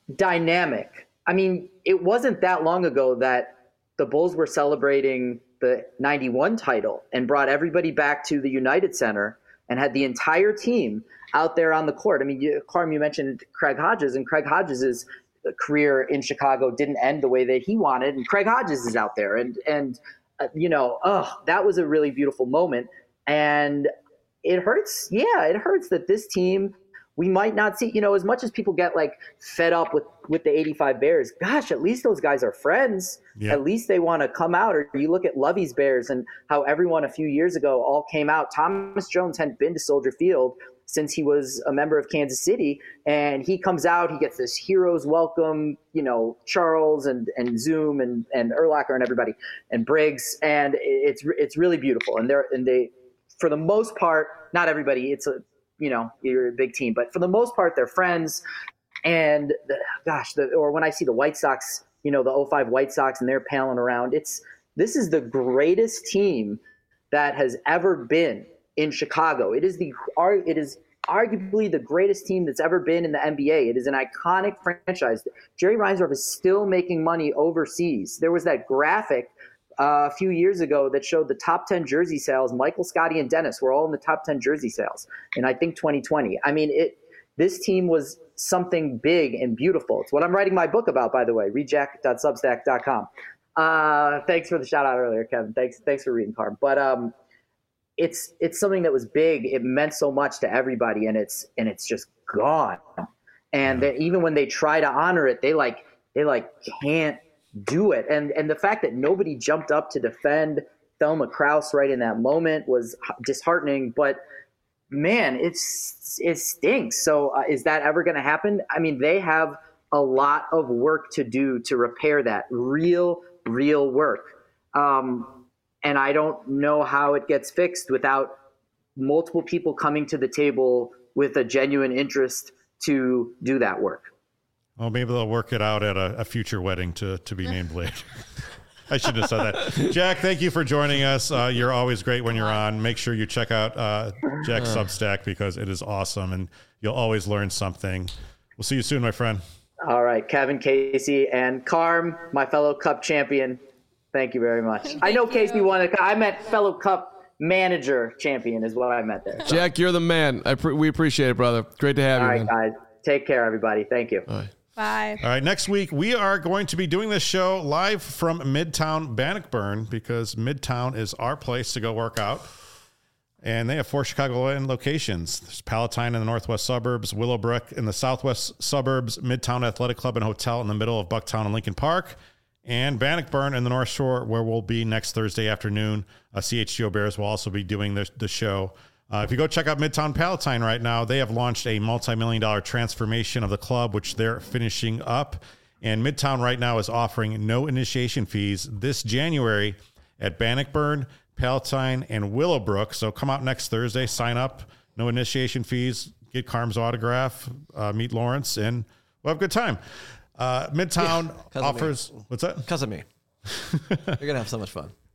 Speaker 5: dynamic, I mean, it wasn't that long ago that the Bulls were celebrating the ninety-one title and brought everybody back to the United Center and had the entire team out there on the court. I mean, you, Carm, you mentioned Craig Hodges, and Craig Hodges' career in Chicago didn't end the way that he wanted, and Craig Hodges is out there. And, and uh, you know, oh, that was a really beautiful moment. And it hurts. Yeah, it hurts that this team, we might not see, you know, as much as people get like fed up with, with the eighty-five Bears, gosh, at least those guys are friends.
Speaker 1: Yeah.
Speaker 5: At least they want to come out. Or you look at Lovey's Bears and how everyone a few years ago all came out. Thomas Jones hadn't been to Soldier Field since he was a member of Kansas City, and he comes out, he gets this hero's welcome, you know, Charles and, and Zoom and, and Urlacher and everybody and Briggs. And it's, it's really beautiful. And they're, and they, for the most part, not everybody, it's a, you know, you're a big team, but for the most part, they're friends. And the, gosh, the, or when I see the White Sox, you know, the oh five White Sox, and they're palling around, it's, this is the greatest team that has ever been in Chicago. It is the, it is arguably the greatest team that's ever been in the N B A. It is an iconic franchise. Jerry Reinsdorf is still making money overseas. There was that graphic Uh, a few years ago that showed the top ten jersey sales. Michael, Scotty, and Dennis were all in the top ten jersey sales in, I think, twenty twenty. I mean, it. This team was something big and beautiful. It's what I'm writing my book about, by the way, read jack dot substack dot com. Uh, thanks for the shout out earlier, Kevin. Thanks, thanks for reading, Carm. But um, it's it's something that was big. It meant so much to everybody, and it's and it's just gone. And then even when they try to honor it, they like they like can't do it. And and the fact that nobody jumped up to defend Thelma Krause right in that moment was disheartening. But man, it's it stinks. So uh, is that ever going to happen? I mean, they have a lot of work to do to repair that. Real, real work. Um, and I don't know how it gets fixed without multiple people coming to the table with a genuine interest to do that work.
Speaker 1: Well, maybe they'll work it out at a, a future wedding to, to be named later. I shouldn't have said that. Jack, thank you for joining us. Uh, you're always great when you're on. Make sure you check out uh, Jack's Substack because it is awesome and you'll always learn something. We'll see you soon, my friend.
Speaker 5: All right, Kevin, Casey, and Carm, my fellow Cup champion. Thank you very much. I know Casey won it. I meant fellow Cup manager champion is what I meant there. So.
Speaker 3: Jack, you're the man. I pre- we appreciate it, brother. Great to have
Speaker 5: All
Speaker 3: you,
Speaker 5: right,
Speaker 3: man.
Speaker 5: guys. Take care, everybody. Thank you.
Speaker 3: All right.
Speaker 2: Bye.
Speaker 1: All right, next week we are going to be doing this show live from Midtown Bannockburn because Midtown is our place to go work out. And they have four Chicagoland locations. There's Palatine in the northwest suburbs, Willowbrook in the southwest suburbs, Midtown Athletic Club and Hotel in the middle of Bucktown and Lincoln Park, and Bannockburn in the North Shore, where we'll be next Thursday afternoon. Uh, C H G O Bears will also be doing the, the show. Uh, if you go check out Midtown Palatine right now, they have launched a multi-million dollar transformation of the club, which they're finishing up. And Midtown right now is offering no initiation fees this January at Bannockburn, Palatine, and Willowbrook. So come out next Thursday, sign up, no initiation fees, get Carm's autograph, uh, meet Lawrence, and we'll have a good time. Uh, Midtown
Speaker 4: Yeah,
Speaker 1: offers, what's that?
Speaker 4: Because of me. You're going to have so much fun.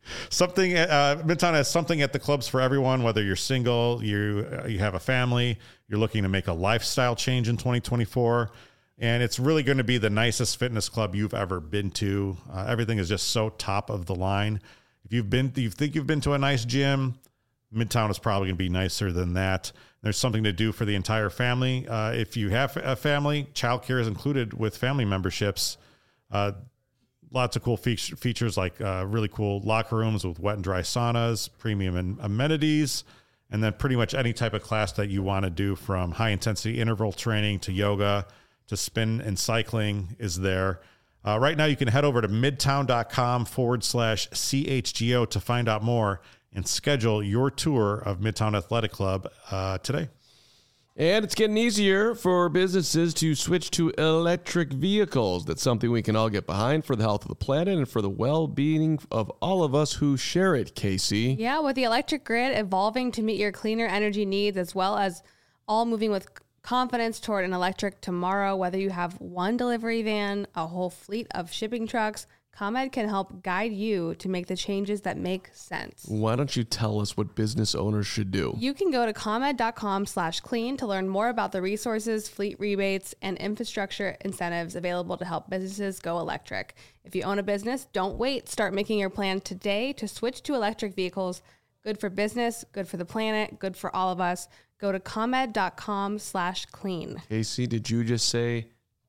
Speaker 1: something. Uh, Midtown has something at the clubs for everyone. Whether you're single, you uh, you have a family, you're looking to make a lifestyle change in twenty twenty-four, and it's really going to be the nicest fitness club you've ever been to. Uh, everything is just so top of the line. If you've been, you think you've been to a nice gym, Midtown is probably going to be nicer than that. There's something to do for the entire family. Uh, if you have a family, childcare is included with family memberships. Uh, lots of cool fe- features like uh, really cool locker rooms with wet and dry saunas, premium and amenities, and then pretty much any type of class that you want to do, from high intensity interval training to yoga to spin and cycling is there. Uh, right now, you can head over to midtown.com forward slash CHGO to find out more and schedule your tour of Midtown Athletic Club uh, today.
Speaker 3: And it's getting easier for businesses to switch to electric vehicles. That's something we can all get behind for the health of the planet and for the well-being of all of us who share it, Casey.
Speaker 2: Yeah, with the electric grid evolving to meet your cleaner energy needs, as well as all moving with confidence toward an electric tomorrow, whether you have one delivery van, a whole fleet of shipping trucks, ComEd can help guide you to make the changes that make sense.
Speaker 3: Why don't you tell us what business owners should do?
Speaker 2: You can go to ComEd.com slash clean to learn more about the resources, fleet rebates, and infrastructure incentives available to help businesses go electric. If you own a business, don't wait. Start making your plan today to switch to electric vehicles. Good for business, good for the planet, good for all of us. Go to ComEd.com slash clean.
Speaker 3: Casey, did you just say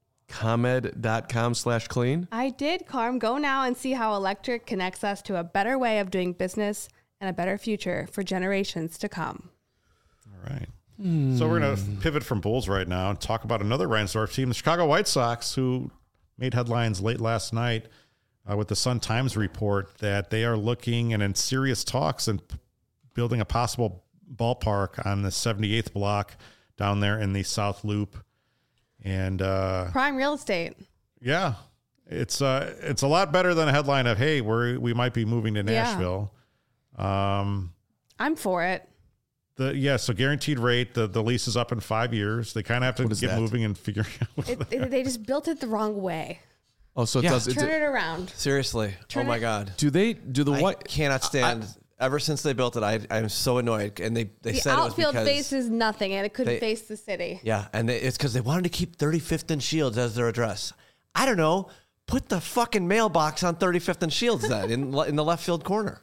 Speaker 3: ComEd.com slash clean?
Speaker 2: I did, Carm. Go now and see how electric connects us to a better way of doing business and a better future for generations to come.
Speaker 1: All right. Mm. So we're going to pivot from Bulls right now and talk about another Reinsdorf team, the Chicago White Sox, who made headlines late last night uh, with the Sun-Times report that they are looking and in serious talks and p- building a possible ballpark on the seventy-eighth block down there in the South Loop. And uh,
Speaker 2: prime real estate.
Speaker 1: Yeah, it's uh, it's a lot better than a headline of, hey, we we might be moving to Nashville. Yeah. Um,
Speaker 2: I'm for it.
Speaker 1: The yeah, so guaranteed rate. The, the lease is up in five years. They kind of have to get that? moving and figuring out. What
Speaker 2: it, it, they just built it the wrong way.
Speaker 3: Oh, so it
Speaker 4: yeah.
Speaker 3: does
Speaker 2: turn
Speaker 3: it,
Speaker 2: it around.
Speaker 4: Seriously.
Speaker 2: Turn
Speaker 4: oh my
Speaker 2: it,
Speaker 4: God.
Speaker 3: Do they do the
Speaker 4: I
Speaker 3: white?
Speaker 4: Cannot stand. I, Ever since they built it, I, I'm so annoyed. And they, they
Speaker 2: the
Speaker 4: said it was
Speaker 2: outfield
Speaker 4: because
Speaker 2: faces nothing, and it couldn't
Speaker 4: they,
Speaker 2: face the city.
Speaker 4: Yeah, and they, it's because they wanted to keep thirty-fifth and Shields as their address. I don't know. Put the fucking mailbox on thirty-fifth and Shields then in in the left field corner.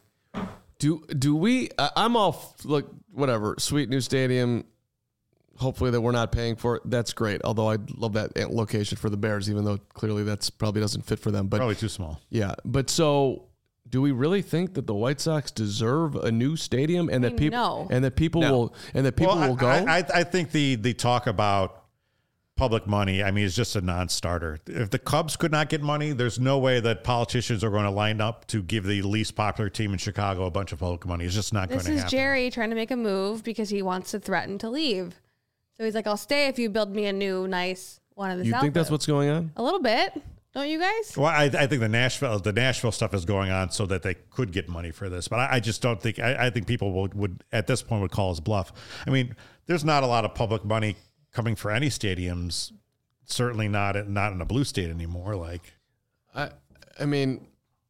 Speaker 3: Do do we? Uh, I'm all look whatever. Sweet new stadium. Hopefully that we're not paying for it. That's great. Although I love that location for the Bears, even though clearly that's probably doesn't fit for them. But
Speaker 1: probably too small.
Speaker 3: Yeah, but so. Do we really think that the White Sox deserve a new stadium and that people
Speaker 2: no.
Speaker 3: and that people
Speaker 4: No.
Speaker 3: will and that people
Speaker 1: well,
Speaker 3: will go?
Speaker 1: I, I, I think the the talk about public money, I mean, is just a non-starter. If the Cubs could not get money, there's no way that politicians are going to line up to give the least popular team in Chicago a bunch of public money. It's just not going
Speaker 2: This
Speaker 1: to
Speaker 2: is
Speaker 1: happen.
Speaker 2: Jerry trying to make a move because he wants to threaten to leave. So he's like, "I'll stay if you build me a new, nice one of the."
Speaker 3: You
Speaker 2: South
Speaker 3: think that's
Speaker 2: Loop."
Speaker 3: what's going on?
Speaker 2: A little bit. Don't you guys?
Speaker 1: Well, I, I think the Nashville the Nashville stuff is going on so that they could get money for this, but I, I just don't think I, I think people would, would at this point would call us bluff. I mean, there's not a lot of public money coming for any stadiums. Certainly not not in a blue state anymore. Like,
Speaker 3: I I mean,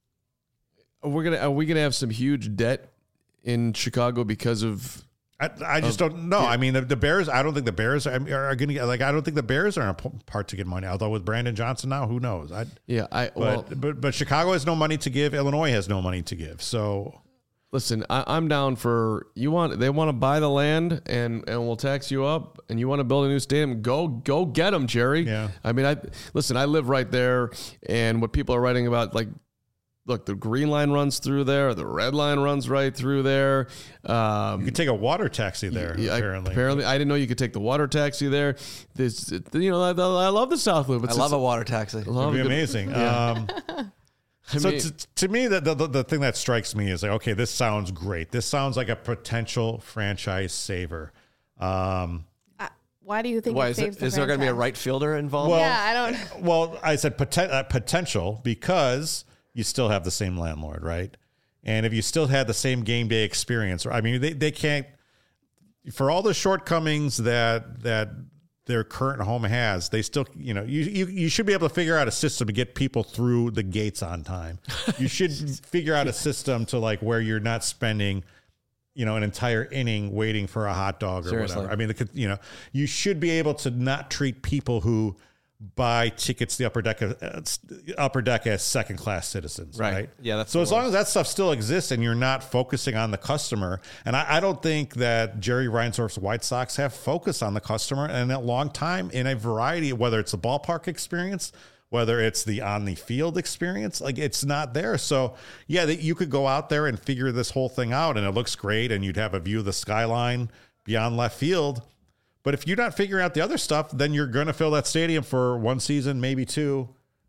Speaker 3: we're gonna are we gonna have some huge debt in Chicago because of?
Speaker 1: I, I just
Speaker 3: of,
Speaker 1: don't know.
Speaker 3: Yeah.
Speaker 1: I mean, the, the Bears. I don't think the Bears are, are going to like. I don't think the Bears are in a part to get money. Although with Brandon Johnson now, who knows? I,
Speaker 3: Yeah, I
Speaker 1: but,
Speaker 3: well,
Speaker 1: but but Chicago has no money to give. Illinois has no money to give. So
Speaker 3: listen, I, I'm down for you want they want to buy the land and and we'll tax you up and you want to build a new stadium. Go go get them, Jerry.
Speaker 1: Yeah.
Speaker 3: I mean, I listen. I live right there, and what people are writing about, like. Look, the green line runs through there. The red line runs right through there. Um,
Speaker 1: you could take a water taxi there.
Speaker 3: yeah,
Speaker 1: apparently,
Speaker 3: apparently, I didn't know you could take the water taxi there. This, you know, I, I love the South Loop. It's,
Speaker 4: I love
Speaker 3: it's,
Speaker 4: a water taxi.
Speaker 3: I love
Speaker 1: it'd be
Speaker 3: a good-
Speaker 1: amazing.
Speaker 3: Yeah.
Speaker 1: Um,
Speaker 3: I
Speaker 1: so
Speaker 3: mean-
Speaker 1: to, to me, the, the the thing that strikes me is like, okay, this sounds great. This sounds like a potential franchise saver. Um,
Speaker 2: Uh, why do you think
Speaker 4: Why
Speaker 2: it
Speaker 4: is,
Speaker 2: saves
Speaker 4: it,
Speaker 2: the
Speaker 4: is there going to be a
Speaker 2: franchise?
Speaker 4: right fielder involved?
Speaker 1: Well-
Speaker 2: Yeah, I don't.
Speaker 1: well, I said poten- uh, potential because you still have the same landlord, right? And if you still had the same game day experience, I mean, they, they can't, for all the shortcomings that that their current home has, they still, you know, you, you, you should be able to figure out a system to get people through the gates on time. You should figure out a system to like where you're not spending, you know, an entire inning waiting for a hot dog or
Speaker 4: Seriously.
Speaker 1: whatever. I mean, the, you know, you should be able to not treat people who buy tickets to the upper deck, uh, upper deck as second class citizens, right?
Speaker 4: Right. Yeah, that's
Speaker 1: so
Speaker 4: the
Speaker 1: as long
Speaker 4: worst.
Speaker 1: as that stuff still exists and you're not focusing on the customer, and I, I don't think that Jerry Reinsdorf's White Sox have focused on the customer in a long time in a variety of, whether it's the ballpark experience, whether it's the on the field experience, like it's not there. So yeah, that you could go out there and figure this whole thing out and it looks great and you'd have a view of the skyline beyond left field. But if you're not figuring out the other stuff, then you're going to fill that stadium for one season, maybe two,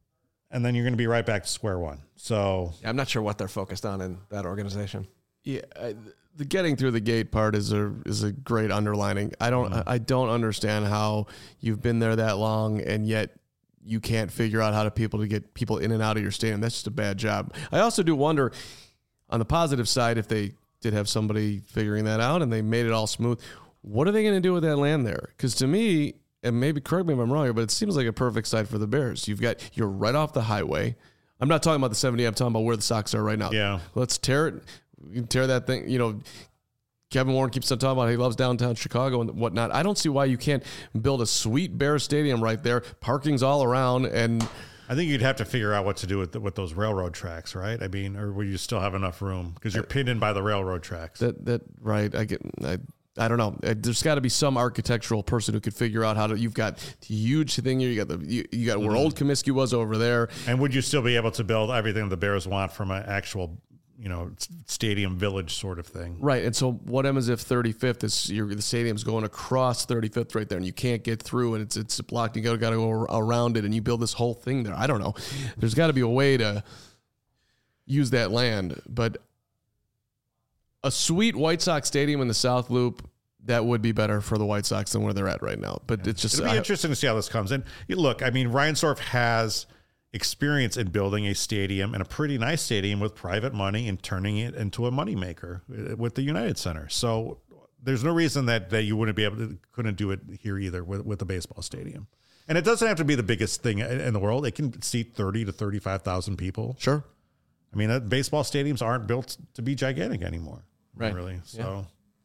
Speaker 1: and then you're going to be right back to square one. So
Speaker 4: I'm not sure what they're focused on in that organization.
Speaker 3: Yeah, I, the getting through the gate part is a is a great underlining. I don't I don't understand how you've been there that long and yet you can't figure out how to people to get people in and out of your stadium. That's just a bad job. I also do wonder, on the positive side, if they did have somebody figuring that out and they made it all smooth, what are they going to do with that land there? Because to me, and maybe correct me if I'm wrong here, but it seems like a perfect site for the Bears. You've got you're right off the highway. I'm not talking about the seventy. I'm talking about where the Sox are right now.
Speaker 1: Yeah.
Speaker 3: Let's tear it. You can tear that thing. You know, Kevin Warren keeps on talking about he loves downtown Chicago and whatnot. I don't see why you can't build a sweet Bears stadium right there. Parking's all around, and
Speaker 1: I think you'd have to figure out what to do with the, with those railroad tracks, right? I mean, or will you still have enough room because you're pinned in by the railroad tracks?
Speaker 3: that that right. I get. I, I don't know. There's got to be some architectural person who could figure out how to. You've got the huge thing here. You got the you, you got where old Comiskey was over there.
Speaker 1: And would you still be able to build everything the Bears want from an actual, you know, stadium village sort of thing?
Speaker 3: Right. And so what happens if thirty-fifth is your the stadium's going across thirty-fifth right there and you can't get through and it's it's blocked. You got to go around it and you build this whole thing there. I don't know. There's got to be a way to use that land, but a sweet White Sox stadium in the South Loop, that would be better for the White Sox than where they're at right now. But it's just
Speaker 1: It'll be
Speaker 3: I-
Speaker 1: interesting to see how this comes. And you look, I mean, Reinsdorf has experience in building a stadium and a pretty nice stadium with private money and turning it into a moneymaker with the United Center. So there's no reason that, that you wouldn't be able to, couldn't do it here either with, with the baseball stadium. And it doesn't have to be the biggest thing in the world. It can seat thirty to thirty-five thousand people.
Speaker 3: Sure.
Speaker 1: I mean, uh, baseball stadiums aren't built to be gigantic anymore.
Speaker 3: Right.
Speaker 1: Really. So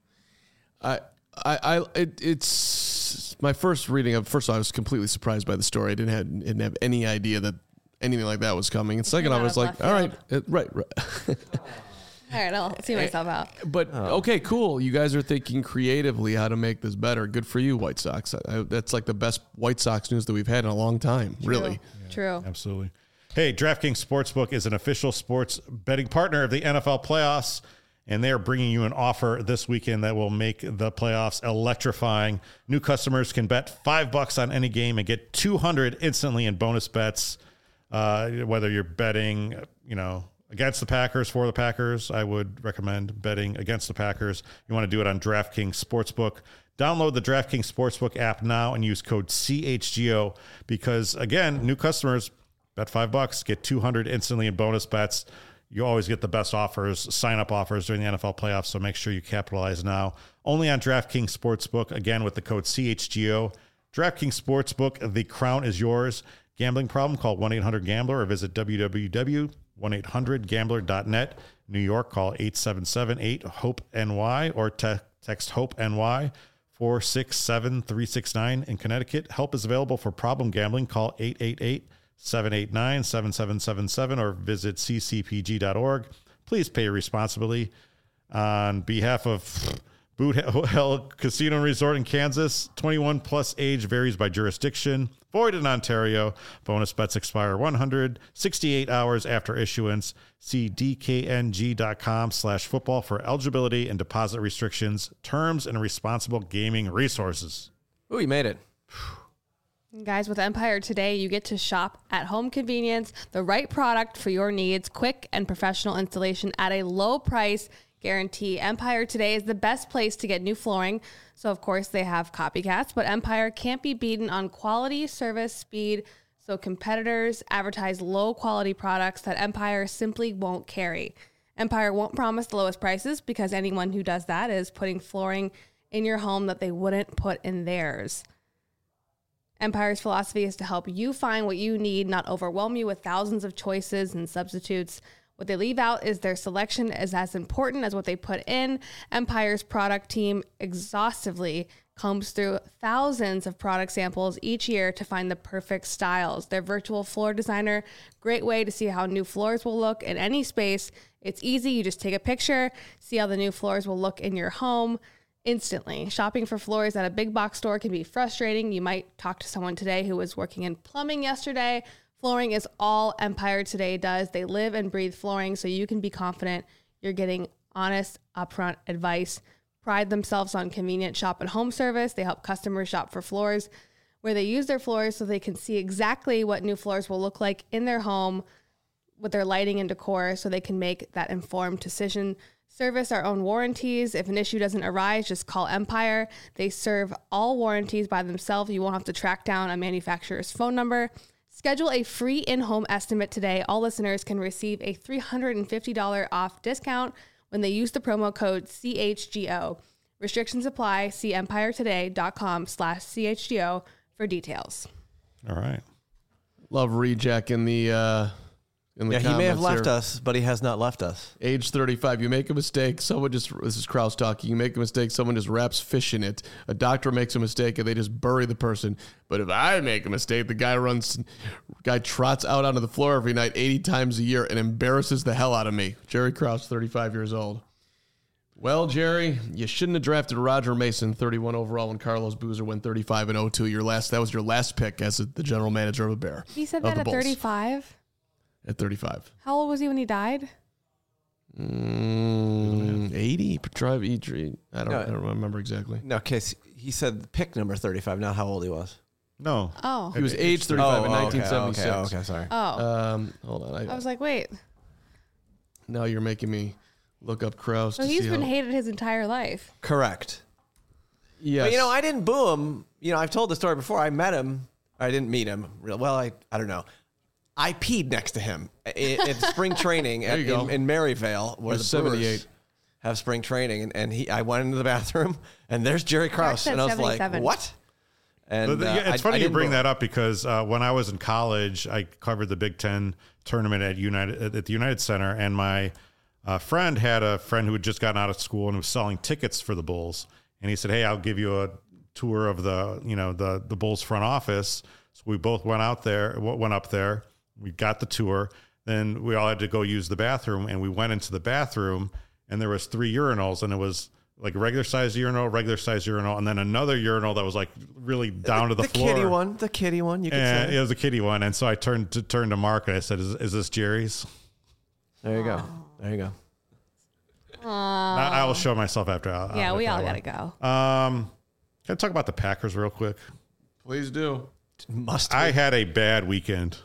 Speaker 3: I, I, I it, it's my first reading of. First of all, I was completely surprised by the story. I didn't have didn't have any idea that anything like that was coming. And second,
Speaker 2: Came
Speaker 3: I
Speaker 2: out
Speaker 3: was
Speaker 2: of
Speaker 3: like,
Speaker 2: left
Speaker 3: all right,
Speaker 2: field.
Speaker 3: it, right, right.
Speaker 2: All right, I'll see myself out.
Speaker 3: But okay, cool. You guys are thinking creatively how to make this better. Good for you, White Sox. I, that's like the best White Sox news that we've had in a long time. Really.
Speaker 2: True.
Speaker 1: absolutely. Hey, DraftKings Sportsbook is an official sports betting partner of the N F L playoffs, and they are bringing you an offer this weekend that will make the playoffs electrifying. New customers can bet five bucks on any game and get two hundred instantly in bonus bets. Uh, whether you're betting, you know, against the Packers, for the Packers, I would recommend betting against the Packers. You want to do it on DraftKings Sportsbook. Download the DraftKings Sportsbook app now and use code C H G O because, again, new customers bet five bucks, get two hundred instantly in bonus bets. You always get the best offers, sign-up offers during the N F L playoffs, so make sure you capitalize now. Only on DraftKings Sportsbook, again, with the code C H G O. DraftKings Sportsbook, the crown is yours. Gambling problem? Call one eight hundred gambler or visit w w w dot one eight hundred gambler dot net. New York, call eight seven seven eight hope N Y or te- text HOPE-N-Y four six seven three six nine. In Connecticut, help is available for problem gambling. Call eight eight eight seven eight nine seven seven seven seven or visit c c p g dot org. Please pay responsibly. On behalf of Boot Hell Casino and Resort in Kansas, twenty-one plus age varies by jurisdiction. Void in Ontario. Bonus bets expire one hundred sixty-eight hours after issuance. See d k n g dot com slash football for eligibility and deposit restrictions, terms, and responsible gaming resources.
Speaker 4: Ooh, you made it.
Speaker 2: Guys, with Empire today, you get to shop at home convenience, the right product for your needs, quick and professional installation at a low price guarantee. Empire today is the best place to get new flooring. So, of course, they have copycats, but Empire can't be beaten on quality, service, speed. So competitors advertise low quality products that Empire simply won't carry. Empire won't promise the lowest prices because anyone who does that is putting flooring in your home that they wouldn't put in theirs. Empire's philosophy is to help you find what you need, not overwhelm you with thousands of choices and substitutes. What they leave out is their selection is as important as what they put in. Empire's product team exhaustively combs through thousands of product samples each year to find the perfect styles. Their virtual floor designer, great way to see how new floors will look in any space. It's easy. You just take a picture, see how the new floors will look in your home instantly. Shopping for floors at a big box store can be frustrating. You might talk to someone today who was working in plumbing yesterday. Flooring is all Empire today does. They live and breathe flooring, so you can be confident you're getting honest, upfront advice. Pride themselves on convenient shop and home service. They help customers shop for floors where they use their floors so they can see exactly what new floors will look like in their home with their lighting and decor, so they can make that informed decision. Service our own warranties. If an issue doesn't arise, just call Empire. They serve all warranties by themselves. You won't have to track down a manufacturer's phone number. Schedule a free in-home estimate today. All listeners can receive a three hundred fifty dollars off discount when they use the promo code C H G O. Restrictions apply. See empiretoday.com slash CHGO for details.
Speaker 1: All right.
Speaker 3: Love Rejack in the uh, in the
Speaker 4: Yeah, he may have
Speaker 3: comments
Speaker 4: left
Speaker 3: here.
Speaker 4: us, but he has not left us.
Speaker 3: Age thirty-five, you make a mistake, someone just, this is Kraus talking, you make a mistake, someone just wraps fish in it. A doctor makes a mistake and they just bury the person. But if I make a mistake, the guy runs, guy trots out onto the floor every night eighty times a year and embarrasses the hell out of me. Jerry Kraus, thirty-five years old. Well, Jerry, you shouldn't have drafted Roger Mason, thirty-one overall, when Carlos Boozer went thirty-five and oh two. Your last, that was your last pick as the general manager of a Bear.
Speaker 2: He said
Speaker 3: of
Speaker 2: that
Speaker 3: the
Speaker 2: at
Speaker 3: Bulls.
Speaker 2: thirty-five?
Speaker 3: At thirty-five.
Speaker 2: How old was he when he died?
Speaker 3: Mm, eighty. Drive E. I don't,
Speaker 4: No.
Speaker 3: I don't remember exactly.
Speaker 4: No, case he said pick number thirty-five, not how old he was.
Speaker 1: No.
Speaker 2: Oh.
Speaker 3: He was age thirty-five in
Speaker 4: okay,
Speaker 3: nineteen seventy-six.
Speaker 4: Okay, okay, sorry.
Speaker 2: Oh.
Speaker 3: Um, hold on. I,
Speaker 2: I was like, wait.
Speaker 3: now you're making me look up Kraus.
Speaker 2: So
Speaker 3: to
Speaker 2: he's
Speaker 3: see
Speaker 2: been
Speaker 3: how,
Speaker 2: hated his entire life.
Speaker 4: Correct.
Speaker 3: Yes.
Speaker 4: But you know, I didn't boo him. You know, I've told the story before. I met him. I didn't meet him. Real well. I I don't know. I peed next to him in, in spring training at,
Speaker 3: you go.
Speaker 4: in, in Maryvale, where
Speaker 3: There's
Speaker 4: the Brewers
Speaker 3: seventy-eight.
Speaker 4: have spring training, and, and he. I went into the bathroom, and there's Jerry Krause,
Speaker 2: said
Speaker 4: and I was like,
Speaker 2: seventy-seven.
Speaker 4: "What?" And
Speaker 1: But
Speaker 4: uh,
Speaker 1: yeah, it's
Speaker 4: I-
Speaker 1: funny
Speaker 4: I
Speaker 1: you
Speaker 4: didn't
Speaker 1: bring
Speaker 4: boo him.
Speaker 1: that up because uh, when I was in college, I covered the Big Ten tournament at United at the United Center, and my uh, friend had a friend who had just gotten out of school and was selling tickets for the Bulls, and he said, "Hey, I'll give you a tour of the you know the the Bulls front office." So we both went out there, went up there, we got the tour. Then we all had to go use the bathroom, and we went into the bathroom, and there was three urinals, and it was like a regular size urinal, regular size urinal, and then another urinal that was like really down to the,
Speaker 4: the
Speaker 1: floor.
Speaker 4: kitty one, the kitty one. You could
Speaker 1: And
Speaker 4: say.
Speaker 1: it was a kitty one. And so I turned to turned to Mark and I said, is, is this Jerry's?
Speaker 4: There you go. There you go.
Speaker 1: I, I will show myself after. I'll,
Speaker 2: Yeah,
Speaker 1: I'll
Speaker 2: we
Speaker 1: look
Speaker 2: all
Speaker 1: at
Speaker 2: gotta
Speaker 1: that
Speaker 2: go.
Speaker 1: one. Um, can I talk about the Packers real quick?
Speaker 3: Please do.
Speaker 4: Must.
Speaker 1: I
Speaker 4: be.
Speaker 1: had a bad weekend.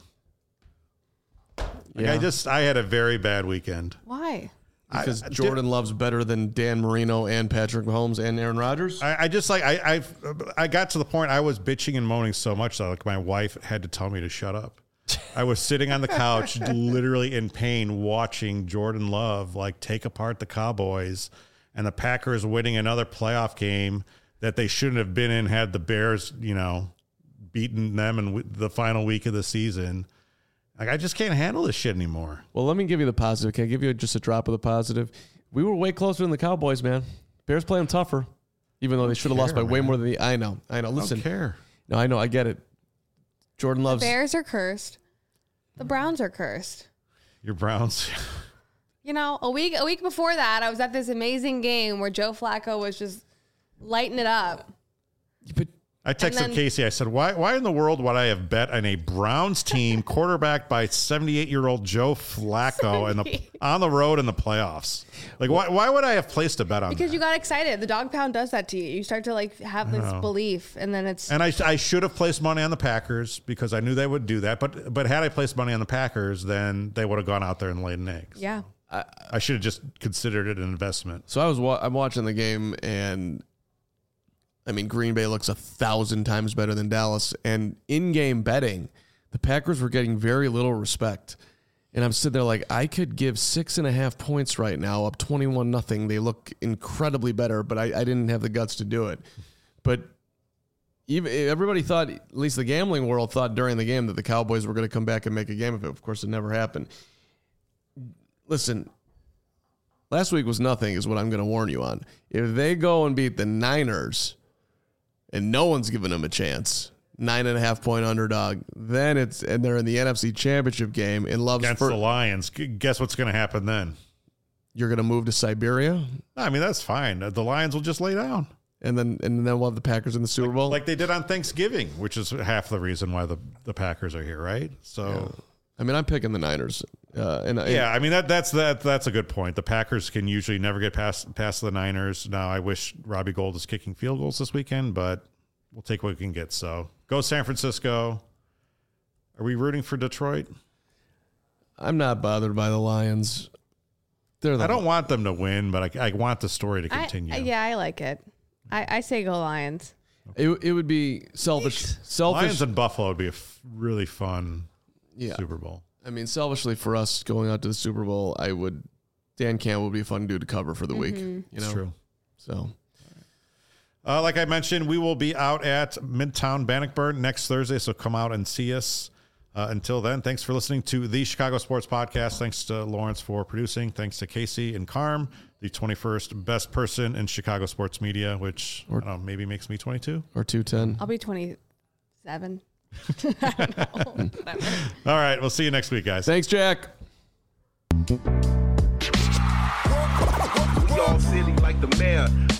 Speaker 1: Like
Speaker 3: Yeah.
Speaker 1: I just, I had a very bad weekend.
Speaker 2: Why?
Speaker 3: Because
Speaker 1: I-
Speaker 3: Jordan loves better than Dan Marino and Patrick Mahomes and Aaron Rodgers.
Speaker 1: I, I just like, I, I, I got to the point I was bitching and moaning so much that like my wife had to tell me to shut up. I was sitting on the couch, literally in pain, watching Jordan Love like take apart the Cowboys and the Packers winning another playoff game that they shouldn't have been in had the Bears, you know, beaten them in w- the final week of the season. Like, I just can't handle this shit anymore.
Speaker 3: Well, let me give you the positive. Can I give you just a drop of the positive? We were way closer than the Cowboys, man. Bears play them tougher, even though they should have lost by
Speaker 1: care,
Speaker 3: way
Speaker 1: man.
Speaker 3: more than the. I know. I know.
Speaker 1: I
Speaker 3: Listen.
Speaker 1: don't care.
Speaker 3: No, I know. I get it. Jordan loves.
Speaker 2: Bears are cursed. The Browns are cursed.
Speaker 1: Your Browns.
Speaker 2: You know, a week a week before that, I was at this amazing game where Joe Flacco was just lighting it up.
Speaker 3: But
Speaker 1: I texted
Speaker 2: then-
Speaker 1: Casey. I said, "Why? Why in the world would I have bet on a Browns team quarterbacked by seventy-eight-year-old Joe Flacco in the on the road in the playoffs? Like, why? Why would I have placed a bet on
Speaker 2: Because
Speaker 1: that?
Speaker 2: you got excited. The dog pound does that to you. You start to like have this belief, and then it's
Speaker 1: And I, I should have placed money on the Packers because I knew they would do that. But but had I placed money on the Packers, then they would have gone out there and laid an egg.
Speaker 2: yeah.
Speaker 1: I should have just considered it an investment.
Speaker 3: so I was. Wa- I'm watching the game, and I mean, Green Bay looks a thousand times better than Dallas. And in-game betting, the Packers were getting very little respect. And I'm sitting there like, I could give six and a half points right now, up twenty-one nothing. They look incredibly better, but I, I didn't have the guts to do it. But even everybody thought, at least the gambling world thought during the game that the Cowboys were going to come back and make a game of it. Of course, it never happened. Listen, last week was nothing is what I'm going to warn you on. If they go and beat the Niners and no one's giving them a chance, nine and a half point underdog, then it's, and they're in the N F C Championship game and Love's
Speaker 1: Against
Speaker 3: first,
Speaker 1: the Lions. Guess what's going to happen then?
Speaker 3: you're going to move to Siberia?
Speaker 1: I mean, that's fine. The Lions will just lay down.
Speaker 3: And then and then we'll have the Packers in the Super Bowl?
Speaker 1: Like they did on Thanksgiving, which is half the reason why the, the Packers are here, right? So,
Speaker 3: Yeah. I mean, I'm picking the Niners. Uh, and
Speaker 1: yeah, I mean, that that's that that's a good point. The Packers can usually never get past past the Niners. Now, I wish Robbie Gould is kicking field goals this weekend, but we'll take what we can get. So, go San Francisco. Are we rooting for Detroit?
Speaker 3: I'm not bothered by the Lions. They're the
Speaker 1: I don't want them to win, but I, I want the story to continue.
Speaker 2: I, yeah, I like it. I, I say go Lions.
Speaker 3: It, it would be selfish. Selfish.
Speaker 1: Lions and Buffalo would be a f- really fun
Speaker 3: Yeah.
Speaker 1: Super Bowl.
Speaker 3: I mean, selfishly for us going out to the Super Bowl, I would. Dan Campbell would be a fun dude to cover for the week. You know,
Speaker 1: It's true.
Speaker 3: So,
Speaker 1: Uh, like I mentioned, we will be out at Midtown Bannockburn next Thursday, so come out and see us. Uh, until then, thanks for listening to the Chicago Sports Podcast. Thanks to Lawrence for producing. Thanks to Casey and Carm, the twenty-first best person in Chicago sports media, which I don't know, maybe makes me twenty-two.
Speaker 3: or two ten.
Speaker 2: I'll be twenty-seven.
Speaker 1: All right, we'll see you next week, guys.
Speaker 3: Thanks, Jack.
Speaker 6: We all silly like the mayor.